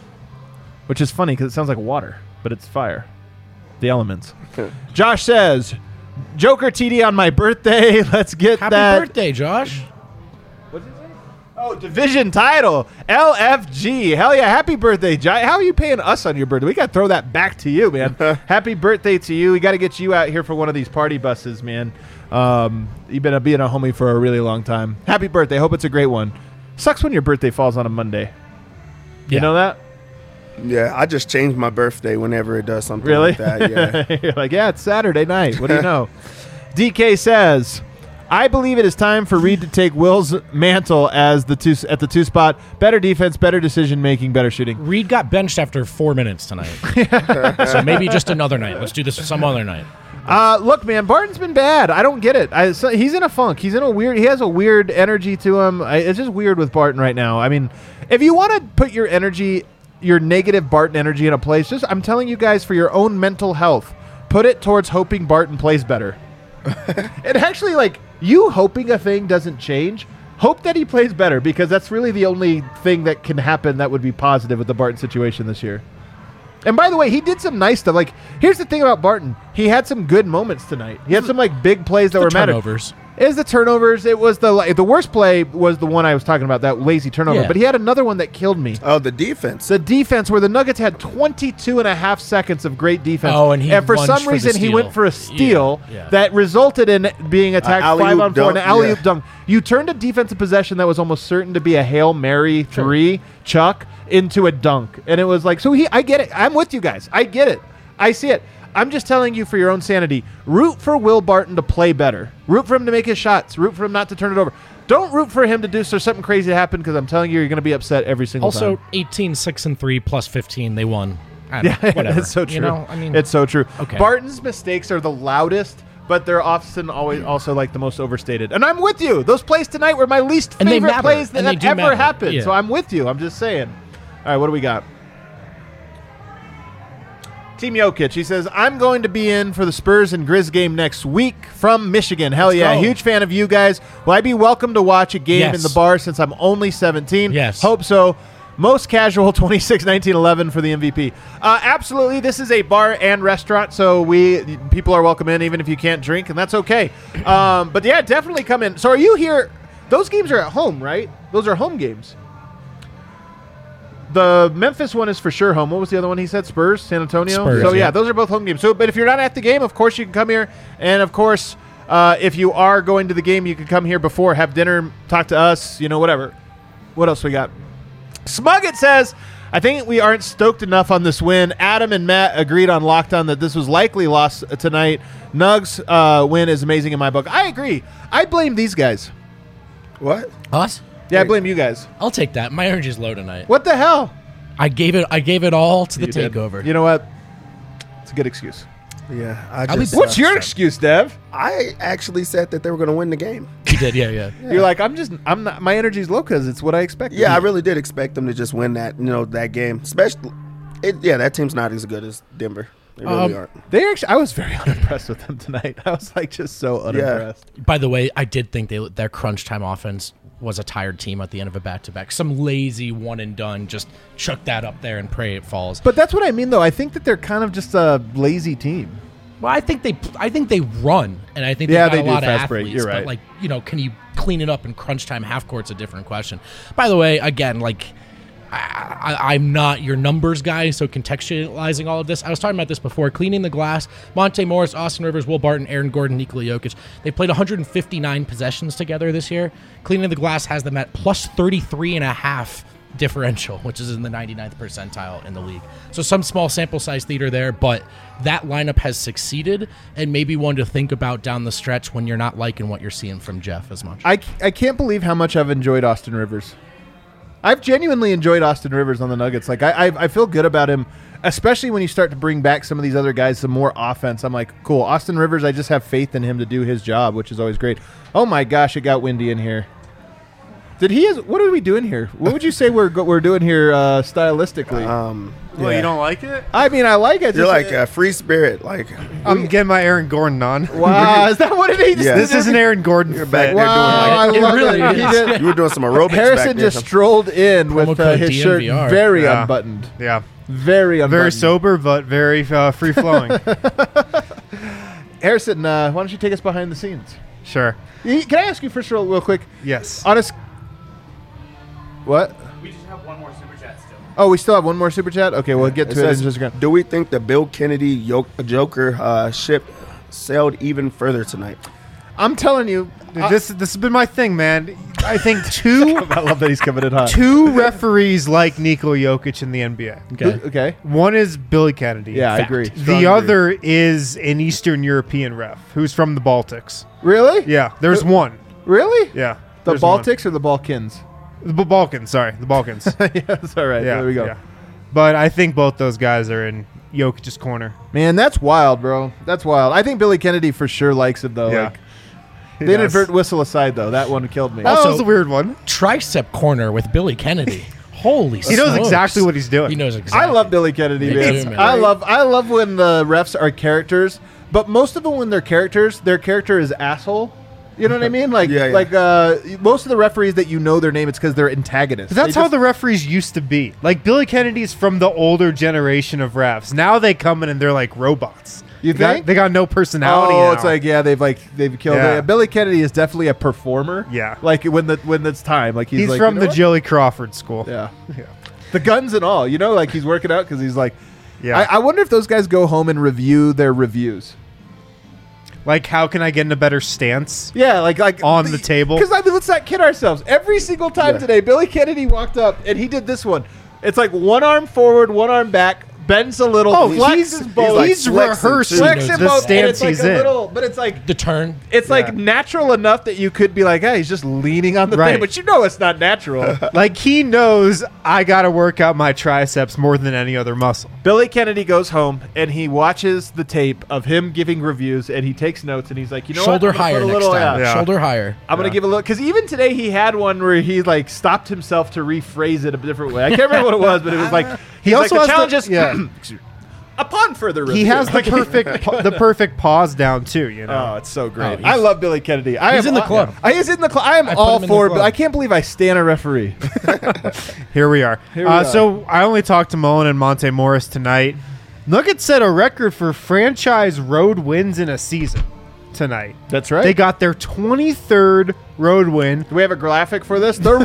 Which is funny because it sounds like water, but it's fire. The elements. Josh says, Joker T D on my birthday. Let's get Happy that. birthday, Josh. What did it say? Oh, division title. L F G. Hell yeah. Happy birthday, Josh. How are you paying us on your birthday? We got to throw that back to you, man. Happy birthday to you. We got to get you out here for one of these party buses, man. Um, you've been a, being a homie for a really long time. Happy birthday. Hope it's a great one. Sucks when your birthday falls on a Monday. You Yeah. know that? Yeah, I just change my birthday whenever it does something Really? like that. Yeah. You're like, yeah, it's Saturday night. What do you know? D K says, I believe it is time for Reed to take Will's mantle as the two at the two spot. Better defense, better decision making, better shooting. Reed got benched after four minutes tonight. So maybe just another night. Let's do this some other night. Uh, look, man, Barton's been bad. I don't get it. I, so he's in a funk. He's in a weird. He has a weird energy to him. I, it's just weird with Barton right now. I mean, if you want to put your energy, your negative Barton energy in a place, just I'm telling you guys, for your own mental health, put it towards hoping Barton plays better. It actually, like, you hoping a thing doesn't change. Hope that he plays better, because that's really the only thing that can happen that would be positive with the Barton situation this year. And by the way, he did some nice stuff. Like, here's the thing about Barton. He had some good moments tonight. He had some, like, big plays that The were mattered. turnovers. It was the turnovers. It was the like, the worst play was the one I was talking about, that lazy turnover. Yeah. But he had another one that killed me. Oh, the defense. The defense, where the Nuggets had twenty-two and a half seconds of great defense. Oh, and he for lunged some for the reason, he steal. went for a steal Yeah, yeah. that resulted in being attacked alley-oop five on four and an dunk, alley-oop yeah. dunk. You turned a defensive possession that was almost certain to be a Hail Mary three, Chuck, into a dunk. And it was like, so he, I get it. I'm with you guys. I get it. I see it. I'm just telling you, for your own sanity, root for Will Barton to play better. Root for him to make his shots. Root for him not to turn it over. Don't root for him to do so something crazy to happen, because I'm telling you, you're going to be upset every single Also, time. eighteen, six, and three plus fifteen, they won. I don't Yeah, know, whatever. it's so true. You know, I mean, it's so true. Okay. Barton's mistakes are the loudest, but they're often always also like the most overstated. And I'm with you. Those plays tonight were my least And they favorite matter. plays that And they have do ever matter. happened. Yeah. So I'm with you. I'm just saying. All right, what do we got? Team Jokic, he says, I'm going to be in for the Spurs and Grizz game next week from Michigan. Hell Let's yeah. go. Huge fan of you guys. Will I be welcome to watch a game Yes. in the bar since I'm only seventeen? Yes. Hope so. Most casual, twenty-six, nineteen, eleven for the M V P. Uh, absolutely. This is a bar and restaurant, so we people are welcome in even if you can't drink, and that's okay. Um, but yeah, definitely come in. So are you here? Those games are at home, right? Those are home games. The Memphis one is for sure home. What was the other one he said? Spurs, San Antonio? Spurs, so, yeah, yeah. those are both home games. So, but if you're not at the game, of course, you can come here. And, of course, uh, if you are going to the game, you can come here before, have dinner, talk to us, you know, whatever. What else we got? Smuggett says, I think we aren't stoked enough on this win. Adam and Matt agreed on Lockdown that this was likely lost tonight. Nugs uh, win is amazing in my book. I agree. I blame these guys. What? us? Yeah, I blame you guys. I'll take that. My energy's low tonight. What the hell? I gave it. I gave it all to the You did. takeover. You know what? It's a good excuse. Yeah. I I'll be- just, What's uh, your excuse, Dev? I actually said that they were going to win the game. You did, yeah, yeah. You're like, I'm just, I'm not, my energy's low because it's what I expected. Yeah, I really did expect them to just win that, you know, that game. Especially, it, yeah, that team's not as good as Denver. They really Um, aren't. They actually, I was very unimpressed with them tonight. I was like, just so unimpressed. By the way, I did think they their crunch time offense was a tired team at the end of a back to back. Some lazy one and done, just chuck that up there and pray it falls. But that's what I mean, though. I think that they're kind of just a lazy team. Well, I think they, I think they run, and I think Yeah, they've got they a do lot of fast break. athletes. You're right. But like, you know, can you clean it up in crunch time? Half court's a different question. By the way, again, like, I, I, I'm not your numbers guy, so contextualizing all of this, I was talking about this before. Cleaning the glass, Monte Morris, Austin Rivers, Will Barton, Aaron Gordon, Nikola Jokic. They played one hundred fifty-nine possessions together this year. Cleaning the glass has them at plus thirty-three and a half differential, which is in the ninety-ninth percentile in the league. So some small sample size theater there, but that lineup has succeeded and maybe one to think about down the stretch when you're not liking what you're seeing from Jeff as much. I, I can't believe how much I've enjoyed Austin Rivers. I've genuinely enjoyed Austin Rivers on the Nuggets. Like, I, I I feel good about him, especially when you start to bring back some of these other guys, some more offense. I'm like, cool. Austin Rivers, I just have faith in him to do his job, which is always great. Oh, my gosh, it got windy in here. Did he? Has, what are we doing here? What would you say we're go- we're doing here uh, stylistically? Um, Well, yeah. you don't like it? I mean, I like it. You're just- like a free spirit. Like I'm getting my Aaron Gordon on. wow, is that what it is? Yeah. This is an Aaron Gordon You're fit. back there Wow, doing I It love really it. He is. did- you were doing some aerobics. Harrison back there. just strolled in with Promo uh, code his shirt D N V R. very Yeah. unbuttoned. Yeah. Very unbuttoned. Very sober, but very uh, free flowing. Harrison, uh, why don't you take us behind the scenes? Sure. Y- Can I ask you first, real, real quick? Yes. Honest. What? We just have one more super chat still. Oh, we still have one more super chat. Okay, we'll get It to it in says, just a second. do we think the Bill Kennedy yo- Joker uh, ship sailed even further tonight? I'm telling you, Dude, I- this this has been my thing, man. I think two I love that he's coming in hot. two referees like Nikola Jokic in the N B A. Okay. Who- okay. One is Billy Kennedy. Yeah, I Fact. agree. Strong The agree. other is an Eastern European ref who's from the Baltics. Really? Yeah, there's one. Really? Yeah. The there's one. Baltics or the Balkans? The B- Balkans, sorry. The Balkans. yeah, that's all right. yeah, there we go. yeah. But I think both those guys are in Jokic's corner. Man, that's wild, bro. That's wild. I think Billy Kennedy for sure likes it though. Yeah. Like, He the does. inadvertent whistle aside, though, that one killed me. That Also- was a weird one. Tricep corner with Billy Kennedy. Holy He knows smokes. exactly what he's doing. He knows I exactly. love Billy Kennedy, Me man. too, man. I love I love when the refs are characters, but most of them when they're characters, their character is asshole. You know what I mean? Like Yeah, yeah. like uh, most of the referees that you know their name, it's because they're antagonists. But that's They how just- the referees used to be. Like Billy Kennedy's from the older generation of refs. Now they come in and they're like robots. You They got- think? they got no personality? Oh, now. it's like yeah, they've like they've killed Yeah. it. Billy Kennedy is definitely a performer. Yeah. like when the when it's time, like he's, he's, like, from you know the what? Jilly Crawford school. Yeah, Yeah. the guns and all. You know, like he's working out because he's like. Yeah. I, I wonder if those guys go home and review their reviews. Like, how can I get in a better stance? Yeah, like like On the table? Because I mean, let's not kid ourselves. Every single time Yeah. today, Billy Kennedy walked up and he did this one. It's like one arm forward, one arm back, bends a little, Oh, flexes he's, both, like he's flexing, rehearsing too. flexing the both, and stance it's like he's a in. little, but it's like The turn. it's like Yeah. natural enough that you could be like, hey, he's just leaning on the Right. thing, but you know it's not natural. Like, he knows I got to work out my triceps more than any other muscle. Billy Kennedy goes home and he watches the tape of him giving reviews and he takes notes and he's like, you know Shoulder what? I'm gonna higher put a next little, time. yeah, Yeah. Shoulder higher. I'm gonna Yeah. give a look because even today he had one where he like stopped himself to rephrase it a different way. I can't remember what it was, but it was like He he's also like, the has challenge the- is yeah. upon further review. He has the Like, perfect pa- the perfect pause down too, you know. Oh, it's so great! Oh, he's- I love Billy Kennedy. I he's am in the all- club. I is in the club. I am I put all him in the for. club. I can't believe I stand a referee. Here we are. Here we uh, are. So I only talked to Mullen and Monte Morris tonight. Nuggets set a record for franchise road wins in a season tonight. That's right. They got their twenty-third road win. Do we have a graphic for this? The road.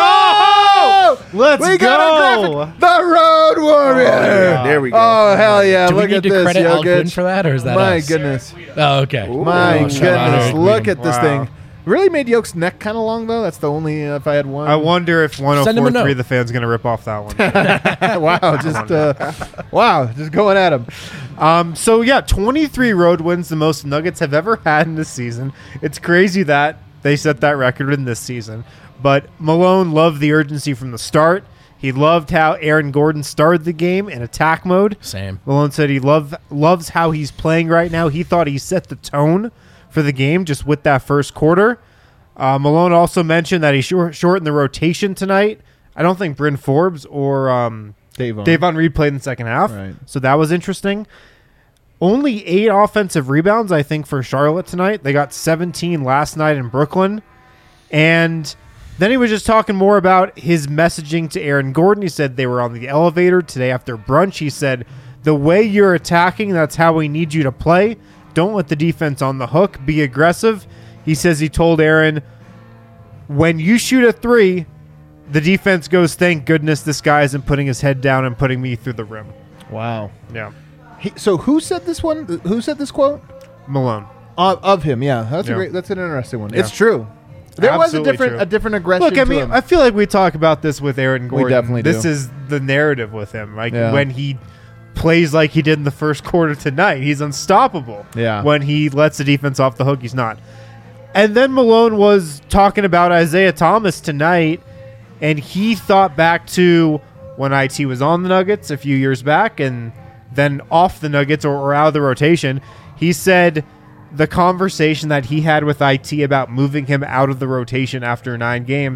Oh! Let's we got a go. graphic. The Road Warrior. yeah, there we go. Oh hell yeah! Do we Look need at to this, credit Al Gwyn Jokic. for that, or is that My us? goodness. Oh, okay. My Oh, shout out goodness! Eric Look Gwyn. at this Wow. thing. Really made Yoke's neck kind of long though. That's the only uh, if I had one. I wonder if Send him a one oh four point three note. the fan's going to rip off that one. wow, just uh, wow, just going at him. Um, so yeah, twenty-three road wins, the most Nuggets have ever had in this season. It's crazy that they set that record in this season. But Malone loved the urgency from the start. He loved how Aaron Gordon started the game in attack mode. Same. Malone said he love, loves how he's playing right now. He thought he set the tone for the game just with that first quarter. Uh, Malone also mentioned that he short, shortened the rotation tonight. I don't think Bryn Forbes or um, Davon. Davon Reed played in the second half. Right. So that was interesting. Only eight offensive rebounds, I think, for Charlotte tonight. They got seventeen last night in Brooklyn. And then he was just talking more about his messaging to Aaron Gordon. He said they were on the elevator today after brunch. He said, the way you're attacking, that's how we need you to play. Don't let the defense on the hook. Be aggressive. He says he told Aaron, when you shoot a three, the defense goes, thank goodness this guy isn't putting his head down and putting me through the rim. Wow. Yeah. He, so who said this one? Who said this quote? Malone. Uh, of him, yeah. That's Yeah. a great. That's an interesting one. Yeah. It's true. There Absolutely was a different, true. a different aggression. Look, I to mean, him. I feel like we talk about this with Aaron Gordon. definitely This do. is the narrative with him. Like Yeah. when he plays like he did in the first quarter tonight, he's unstoppable. Yeah. When he lets the defense off the hook, he's not. And then Malone was talking about Isaiah Thomas tonight, and he thought back to when I T was on the Nuggets a few years back and then off the Nuggets or, or out of the rotation. He said the conversation that he had with I T about moving him out of the rotation after nine games,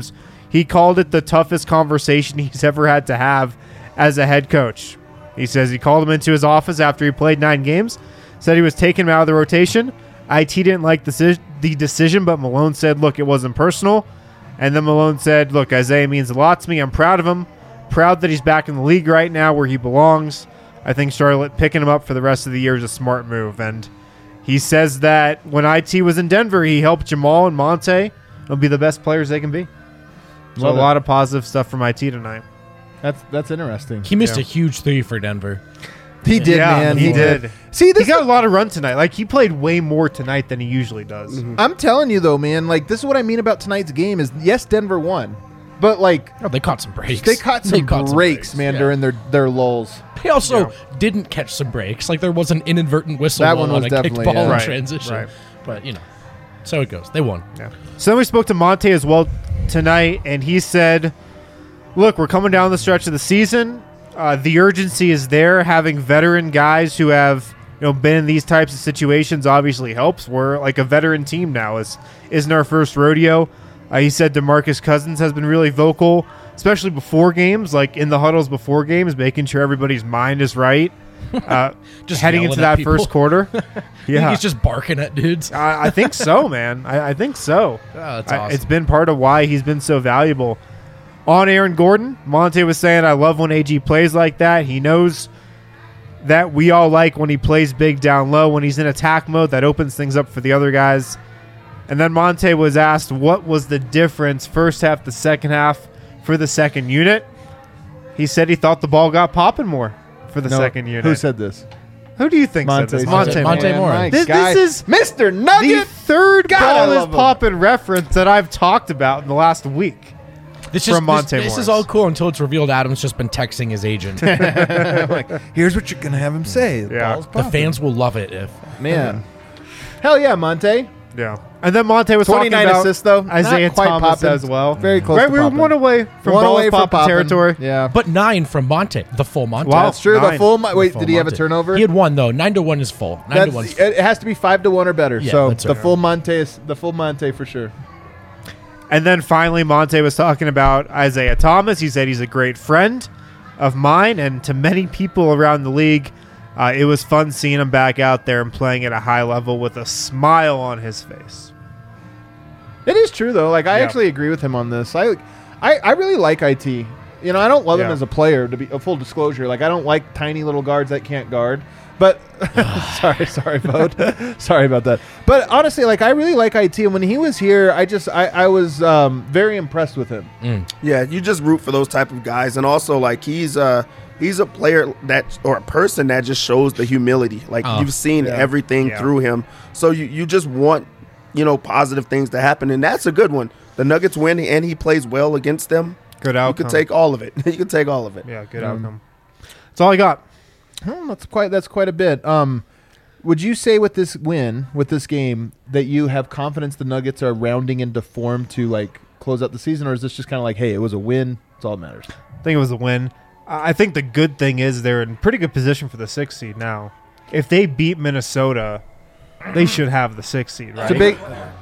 he called it the toughest conversation he's ever had to have as a head coach. He says he called him into his office after he played nine games, said he was taking him out of the rotation. I T didn't like the, the decision, but Malone said, look, it wasn't personal. And then Malone said, look, Isaiah means a lot to me. I'm proud of him. Proud that he's back in the league right now where he belongs. I think Charlotte picking him up for the rest of the year is a smart move. And he says that when I T was in Denver, he helped Jamal and Monte. They'll be the best players they can be. So Love a it. lot of positive stuff from I T tonight. That's that's interesting. He missed Yeah. a huge three for Denver. He did, Yeah, man. he did. See, this He got a lot of run tonight. Like, he played way more tonight than he usually does. I'm telling you though, man. Like, this is what I mean about tonight's game. Is yes, Denver won, but like Oh, they caught some breaks. they caught some caught breaks, man, yeah. during their their lulls. They also Yeah. didn't catch some breaks. Like there was an inadvertent whistle That on one was a kicked definitely, ball yeah. in Right, transition. right. But you know, so it goes. They won. Yeah. So then we spoke to Monte as well tonight, and he said, look, we're coming down the stretch of the season. Uh, the urgency is there. Having veteran guys who have you know been in these types of situations obviously helps. We're like a veteran team now. Is isn't our first rodeo. Uh, he said DeMarcus Cousins has been really vocal, especially before games, like in the huddles before games, making sure everybody's mind is right. Uh, Just heading yelling into at that people. first quarter. Yeah. Yeah, He's just barking at dudes. I, I think so, man. I, I think so. Oh, that's I- awesome. It's been part of why he's been so valuable. On Aaron Gordon, Monte was saying, I love when A G plays like that. He knows that we all like when he plays big down low. When he's in attack mode, that opens things up for the other guys. And then Monte was asked what was the difference first half to second half for the second unit. He said he thought the ball got popping more for the No, second unit. Who said this? Who do you think Monte. said this? Monte- Monte man, Morris. my This- guy. this is Mister The Nugget. third God, I ball is love him. popping reference that I've talked about in the last week. This from is, Monte this, this Morris. is all cool until it's revealed Adam's just been texting his agent. Here's what you're gonna have him say. The Yeah. ball's The popping. fans will love it if. man. Hell yeah, Monte. Yeah. And then Monte was talking twenty-nine about assists though. Isaiah Not quite Thomas popping. as well. Very close. Right, to we were popping. one away from One balls away from popping popping. territory. Yeah, But nine from Monte, the full Monte. Wow. that's true. The Nine. full. Mo- Wait, Full did he have a Monte. turnover? He had one though. Nine to one is full. Nine That's, to one's it has to be five to one or better. Yeah, so that's the right. full Monte is the full Monte for sure. And then finally, Monte was talking about Isaiah Thomas. He said he's a great friend of mine and to many people around the league. Uh, it was fun seeing him back out there and playing at a high level with a smile on his face. It is true though. Like I Yeah. actually agree with him on this. I, I, I really like I T. You know, I don't love him Yeah. as a player. To be a full disclosure, like I don't like tiny little guards that can't guard. But sorry, sorry, vote. Sorry about that. But honestly, like I really like I T. And when he was here, I just I, I was um, very impressed with him. Yeah, you just root for those type of guys, and also like he's uh he's a player that or a person that just shows the humility. Like Oh. you've seen Yeah. everything Yeah. through him, so you you just want you know positive things to happen, and that's a good one. The Nuggets win, and he plays well against them. Good You outcome. could take all of it. you could take all of it. yeah, good Mm. outcome. That's all I got. Hmm, that's quite that's quite a bit. Um, would you say with this win, with this game, that you have confidence the Nuggets are rounding into form to like close out the season, or is this just kind of like, hey, it was a win, that's all that matters? I think it was a win. I I think the good thing is they're in pretty good position for the sixth seed now. If they beat Minnesota, they should have the sixth seed, right? It's a big.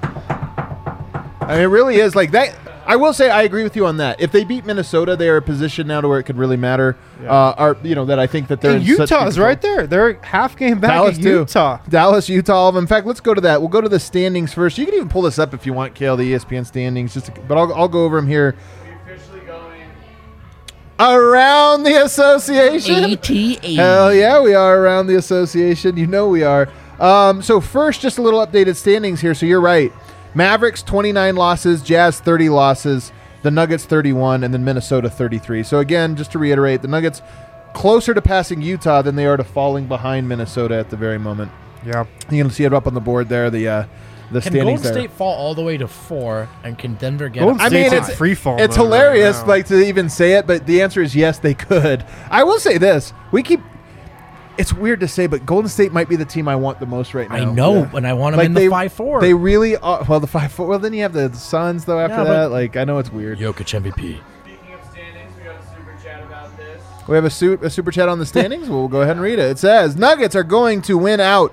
I mean, it really is like that. I will say I agree with you on that. If they beat Minnesota, they are in a position now to where it could really matter. Yeah. Uh, are you know that I think that they're And in such Utah's good right there. They're half game back Dallas at too. Utah. Dallas, Utah. All of them. In fact, let's go to that. We'll go to the standings first. You can even pull this up if you want, Kale, the E S P N standings. Just, to, but I'll, I'll go over them here. We officially going. Around the association. A T A. Hell yeah, we are around the association. You know we are. Um, so first, just a little updated standings here. So you're right. Mavericks twenty-nine losses, Jazz thirty losses, the Nuggets thirty-one, and then Minnesota thirty-three. So again, just to reiterate, the Nuggets closer to passing Utah than they are to falling behind Minnesota at the very moment. Yeah. You can see it up on the board there. The uh, the Can standings Golden there. State fall all the way to four, and can Denver get? Golden up? I mean, State's in it's free fall It's mode right hilarious, now. like to even say it, but the answer is yes, they could. I will say this: we keep. It's weird to say, but Golden State might be the team I want the most right now. I know, Yeah. and I want them Like in they- the five four. They really are. Well, the five four. Well, then you have the Suns though. After Yeah, but- that, like I know it's weird. Jokic M V P. Speaking of standings, we got a super chat about this. We have a, su- a super chat on the standings. We'll go ahead and read it. It says Nuggets are going to win out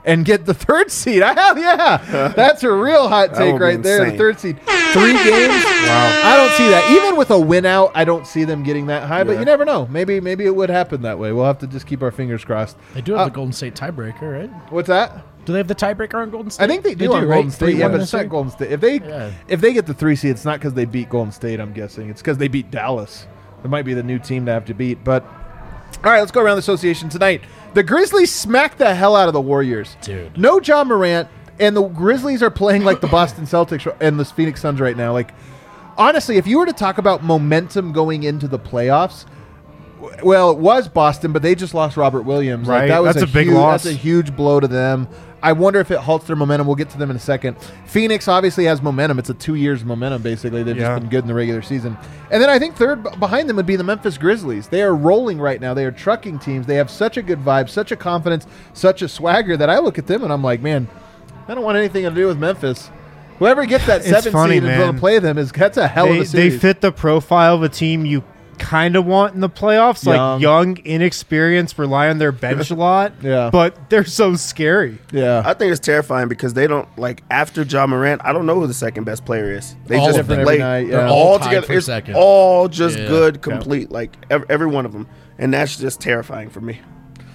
and get the third seed. Hell yeah. That's a real hot That take would be right there. The insane. third seed. Three games? Wow. I don't see that. Even with a win out, I don't see them getting that high, but Yeah. you never know. Maybe maybe it would happen that way. We'll have to just keep our fingers crossed. They do have Uh, the Golden State tiebreaker, right? What's that? Do they have the tiebreaker on Golden State? I think they do they on do, Golden right? State, Three, yeah, one, but and it's a not three? Golden State. If they Yeah. if they get the three seed, it's not because they beat Golden State. I'm guessing it's because they beat Dallas. It might be the new team to have to beat. But all right, let's go around the association tonight. The Grizzlies smacked the hell out of the Warriors. Dude. No John Morant, and the Grizzlies are playing like the Boston Celtics and the Phoenix Suns right now. Like, honestly, if you were to talk about momentum going into the playoffs, w- well, it was Boston, but they just lost Robert Williams. Like, Right. that was That's a big huge, loss. That's a huge blow to them. I wonder if it halts their momentum. We'll get to them in a second. Phoenix obviously has momentum. It's a two years momentum, basically. They've Yeah. just been good in the regular season. And then I think third b- behind them would be the Memphis Grizzlies. They are rolling right now. They are trucking teams. They have such a good vibe, such a confidence, such a swagger that I look at them and I'm like, man, I don't want anything to do with Memphis. Whoever gets that It's seven funny, seed and going man. to play them is that's a hell They, of a they series. fit the profile of a team you kind of want in the playoffs, Young. like young, inexperienced, rely on their bench a lot. Yeah. But they're so scary. yeah. I think it's terrifying because they don't like after John Morant. I don't know who the second best player is. They All just of them. Every play night, yeah. They're all, all tied together. for It's second. all just Yeah. good, complete, like every, every one of them, and that's just terrifying for me.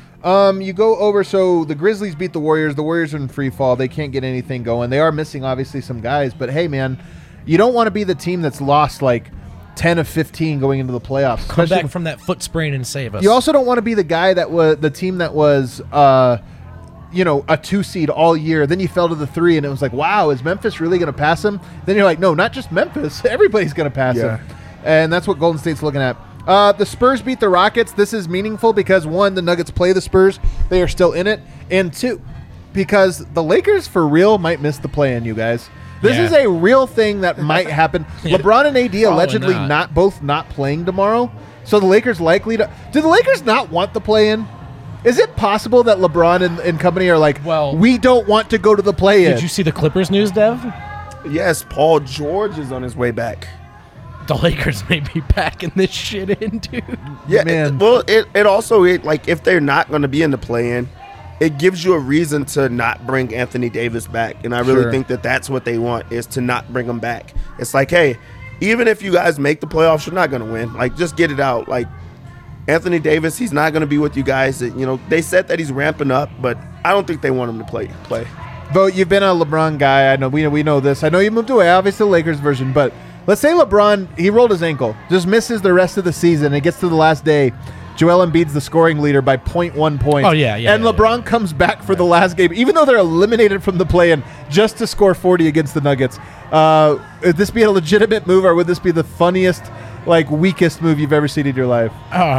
Um, you go over. So the Grizzlies beat the Warriors. The Warriors are in free fall. They can't get anything going. They are missing obviously some guys, but hey, man, you don't want to be the team that's lost like ten of fifteen going into the playoffs. Come especially- back from that foot sprain and save us. You also don't want to be the guy that was the team that was, uh, you know, a two seed all year. Then you fell to the three, and it was like, wow, is Memphis really going to pass them? Then you're like, no, not just Memphis. Everybody's going to pass Yeah. them, and that's what Golden State's looking at. Uh, the Spurs beat the Rockets. This is meaningful because one, the Nuggets play the Spurs; they are still in it, and two, because the Lakers for real might miss the play-in. You guys. This Yeah. is a real thing that might happen. LeBron and A D Probably allegedly not. not both not playing tomorrow. So the Lakers likely to. Do the Lakers not want the play-in? Is it possible that LeBron and, and company are like, Well- we don't want to go to the play-in? Did you see the Clippers news, Dev? Yes, Paul George is on his way back. The Lakers may be packing this shit in, dude. Yeah, Man. it- well, it, it also it, like if they're not going to be in the play-in, it gives you a reason to not bring Anthony Davis back, and I really Sure. think that that's what they want is to not bring him back. It's like, hey, even if you guys make the playoffs, you're not going to win. Like, just get it out. Like Anthony Davis, he's not going to be with you guys. You know, they said that he's ramping up, but I don't think they want him to play. Play. Vote, you've been a LeBron guy. I know we we know this. I know you moved away, obviously the Lakers version, but let's say LeBron, he rolled his ankle, just misses the rest of the season. It gets to the last day. Joel Embiid's the scoring leader by zero point one points. Oh, yeah, yeah, And yeah, LeBron comes back for the last game, even though they're eliminated from the play-in, just to score forty against the Nuggets. Uh, would this be a legitimate move, or would this be the funniest, like, weakest move you've ever seen in your life?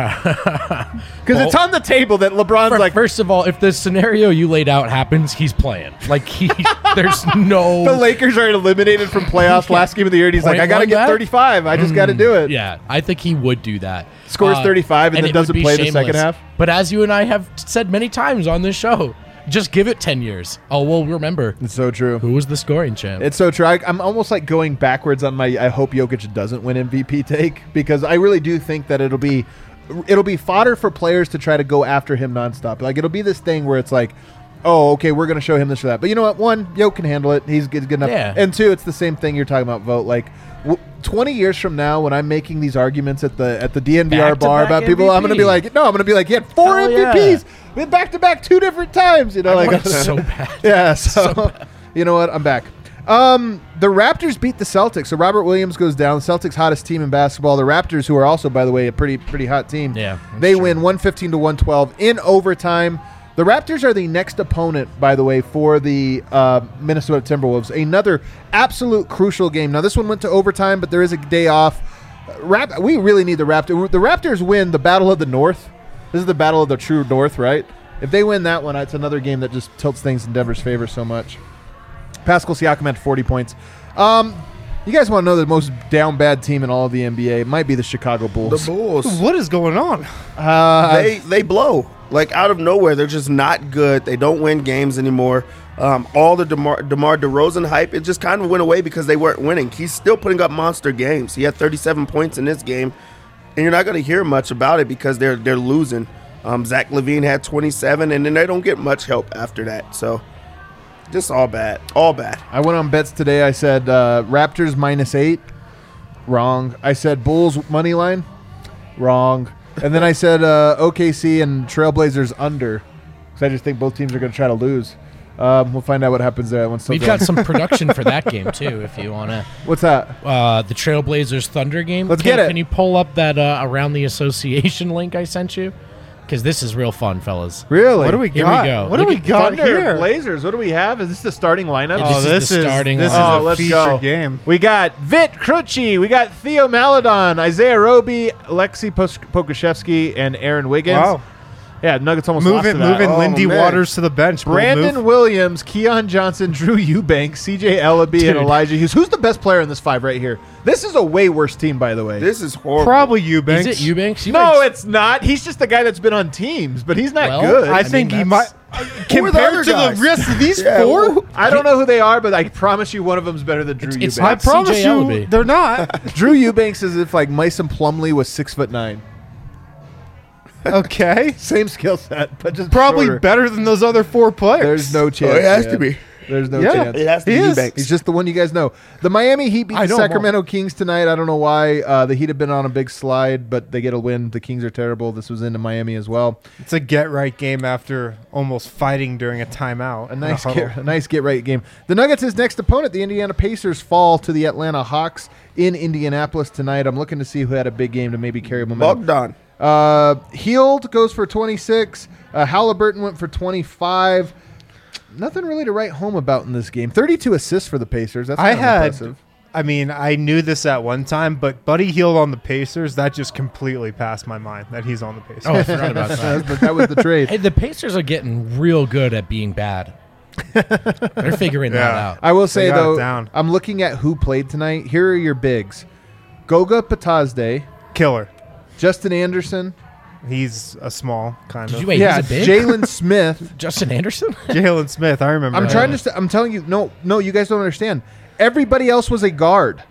Because it's on the table that LeBron's For- like, first of all, if the scenario you laid out happens, he's playing. Like he, there's no. the Lakers are eliminated from playoffs last game of the year, and he's like, Point I got to one get back? thirty-five. I just got to do it. Yeah, I think he would do that. Scores thirty-five and then it would doesn't be play the second half? But as you and I have said many times on this show, just give it ten years. Oh, we'll remember It's so true. who was the scoring champ. It's so true. I, I'm almost like going backwards on my I hope Jokic doesn't win M V P take, because I really do think that it'll be it'll be fodder for players to try to go after him nonstop. Like, it'll be this thing where it's like, oh, okay, we're going to show him this or that. But you know what? One, Jokic can handle it. He's good, good enough. Yeah. And two, it's the same thing you're talking about, Vote. Like, w- twenty years from now, when I'm making these arguments at the at the D N V R bar Back-to-back about people, I'm going to be M V P. like, no, I'm going to be like, he had four Hell M V Ps. We had back-to-back two different times. You know, I like want it so bad. yeah, so, you know what? I'm back. Um, the Raptors beat the Celtics. So Robert Williams goes down. The Celtics' hottest team in basketball. The Raptors, who are also, by the way, a pretty pretty hot team. Yeah, that's they true. win one fifteen to one twelve in overtime. The Raptors are the next opponent, by the way, for the uh, Minnesota Timberwolves. Another absolute crucial game. Now, this one went to overtime, but there is a day off. Rap- we really need the Raptors. The Raptors win the Battle of the North. This is the Battle of the True North, right? If they win that one, it's another game that just tilts things in Denver's favor so much. Pascal Siakam had forty points. Um, you guys want to know the most down bad team in all of the N B A? It might be the Chicago The Bulls. Bulls, What is going on? Uh, they they blow like out of nowhere. They're just not good. They don't win games anymore. Um, all the DeMar, DeMar DeRozan hype, it just kind of went away because they weren't winning. He's still putting up monster games. He had thirty-seven points in this game, and you're not going to hear much about it because they're they're losing. Um, Zach Levine had twenty-seven, and then they don't get much help after that. So just all bad, all bad. I went on bets today. I said uh, Raptors minus eight. Wrong. I said Bulls money line. Wrong. And then I said uh, O K C and Trailblazers under, because I just think both teams are going to try to lose. Um, we'll find out what happens there once. We've got some production for that game too. If you want to, What's that? uh, the Trailblazers Thunder game. Let's can, get it. Can you pull up that uh, around the association link I sent you? Because this is real fun, fellas. Really? What do we Here got? we go. What do Look we at got Thunder here? Blazers. What do we have? Is this the starting lineup? Yeah, Oh, This is this the is starting this is lineup. Oh, a let's featured go. game. We got Vit Crucci. We got Theo Maladon, Isaiah Roby, Alexei Pos- Pokashevsky, and Aaron Wiggins. Wow, Yeah, Nuggets almost lost moving to that. moving Oh, Lindy man. Waters to the bench. Bold Brandon move. Williams, Keon Johnson, Drew Eubanks, C J Ellaby, Dude. and Elijah Hughes. Who's the best player in this five right here? This is a way worse team, by the way. This is horrible. Probably Eubanks. Is it Eubanks? no, Eubanks- it's not. He's just the guy that's been on teams, but he's not Well, good. I, I think mean, he that's- might. Who are the Compared other to guys? the rest of these Yeah, four, who- I don't know who they are, but I promise you one of them's better than Drew It's- it's Eubanks. I not promise C J you, Ellaby. they're not. Drew Eubanks is if like Mason Plumlee was six foot nine. Okay, Same skill set, but just probably shorter. better than those other four players. There's no chance. Oh, it has man. to be. There's no Yeah. chance. It has to He be is. Eubanks. He's just the one you guys know. The Miami Heat beat I the know 'em all. Sacramento Kings tonight. I don't know why. Uh, the Heat have been on a big slide, but they get a win. The Kings are terrible. This was into Miami as well. It's a get right game after almost fighting during a timeout. A nice, in a get, huddle. a nice get right game. The Nuggets' next opponent, the Indiana Pacers, fall to the Atlanta Hawks in Indianapolis tonight. I'm looking to see who had a big game to maybe carry momentum. Bogdan. Uh, Heald goes for twenty-six. Uh, Halliburton went for twenty-five. Nothing really to write home about in this game. thirty-two assists for the Pacers. That's I kind of had. impressive. I mean, I knew this at one time, but Buddy Hield on the Pacers, that just completely passed my mind that he's on the Pacers. Oh, I forgot about That that. was the, that was the trade. Hey, the Pacers are getting real good at being bad. They're figuring that Yeah. out. I will say got it though, down. I'm looking at who played tonight. Here are your bigs: Goga Patazde, Killer. Justin Anderson, He's a small kind Did of. you wait? yeah, he's a big Jalen Smith. Justin Anderson. Jalen Smith, I remember. I'm him. trying to. St- I'm telling you, no, no, you guys don't understand. Everybody else was a guard.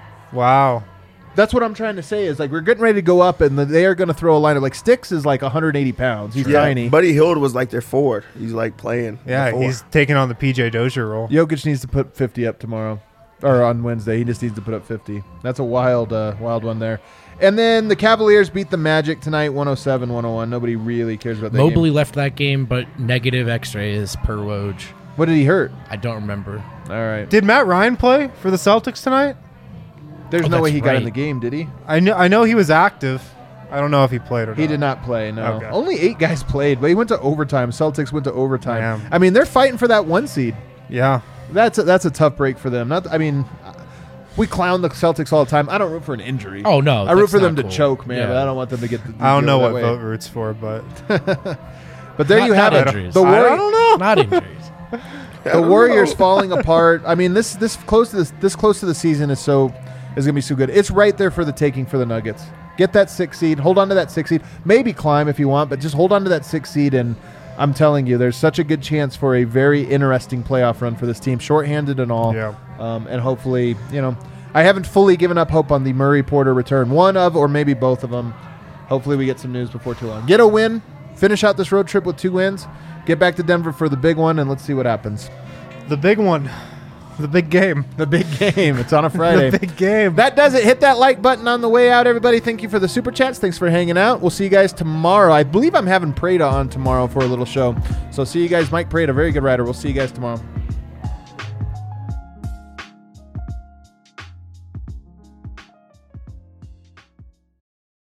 Wow. That's what I'm trying to say. Is like we're getting ready to go up, and they are going to throw a lineup. Like Sticks is like one hundred eighty pounds. He's Yeah, tiny. Buddy Hield was like their forward. He's like playing. Yeah, the four. he's taking on the P J Dozier role. Jokic needs to put fifty up tomorrow, or on Wednesday. He just needs to put up fifty. That's a wild, uh, wild one there. And then the Cavaliers beat the Magic tonight, one oh seven one oh one. Nobody really cares about that Mobley game. left that game, but negative X-rays per Woj. What did he hurt? I don't remember. All right. Did Matt Ryan play for the Celtics tonight? There's Oh, no way that's he got in right. the game, did he? I know. I know he was active. I don't know if he played or He not. did not play, no. Okay. Only eight guys played, but he went to overtime. Celtics went to overtime. Yeah. I mean, they're fighting for that one seed. Yeah. That's a, that's a tough break for them. Not, I mean, we clown the Celtics all the time. I don't root for an injury. Oh no, I root that's for them not to cool. choke, man. Yeah. But I don't want them to get. The, I don't know that what way. vote root's for, but But there Not- you have not it. injuries. The, I Warri- don't know. Not injuries. the Warriors falling apart. I mean, this this close to this this close to the season is so is gonna be so good. It's right there for the taking for the Nuggets. Get that six seed. Hold on to that six seed. Maybe climb if you want, but just hold on to that six seed. And I'm telling you, there's such a good chance for a very interesting playoff run for this team, shorthanded and all. Yeah. Um, and hopefully, you know, I haven't fully given up hope on the Murray Porter return. One of, or maybe both of them. Hopefully, we get some news before too long. Get a win. Finish out this road trip with two wins. Get back to Denver for the big one, and let's see what happens. the big one, the big game, The big game. It's on a Friday. the big game. That does it. Hit that like button on the way out, everybody. Thank you for the super chats. Thanks for hanging out. We'll see you guys tomorrow. I believe I'm having Prada on tomorrow for a little show. So see you guys. Mike Prada, very good writer. We'll see you guys tomorrow.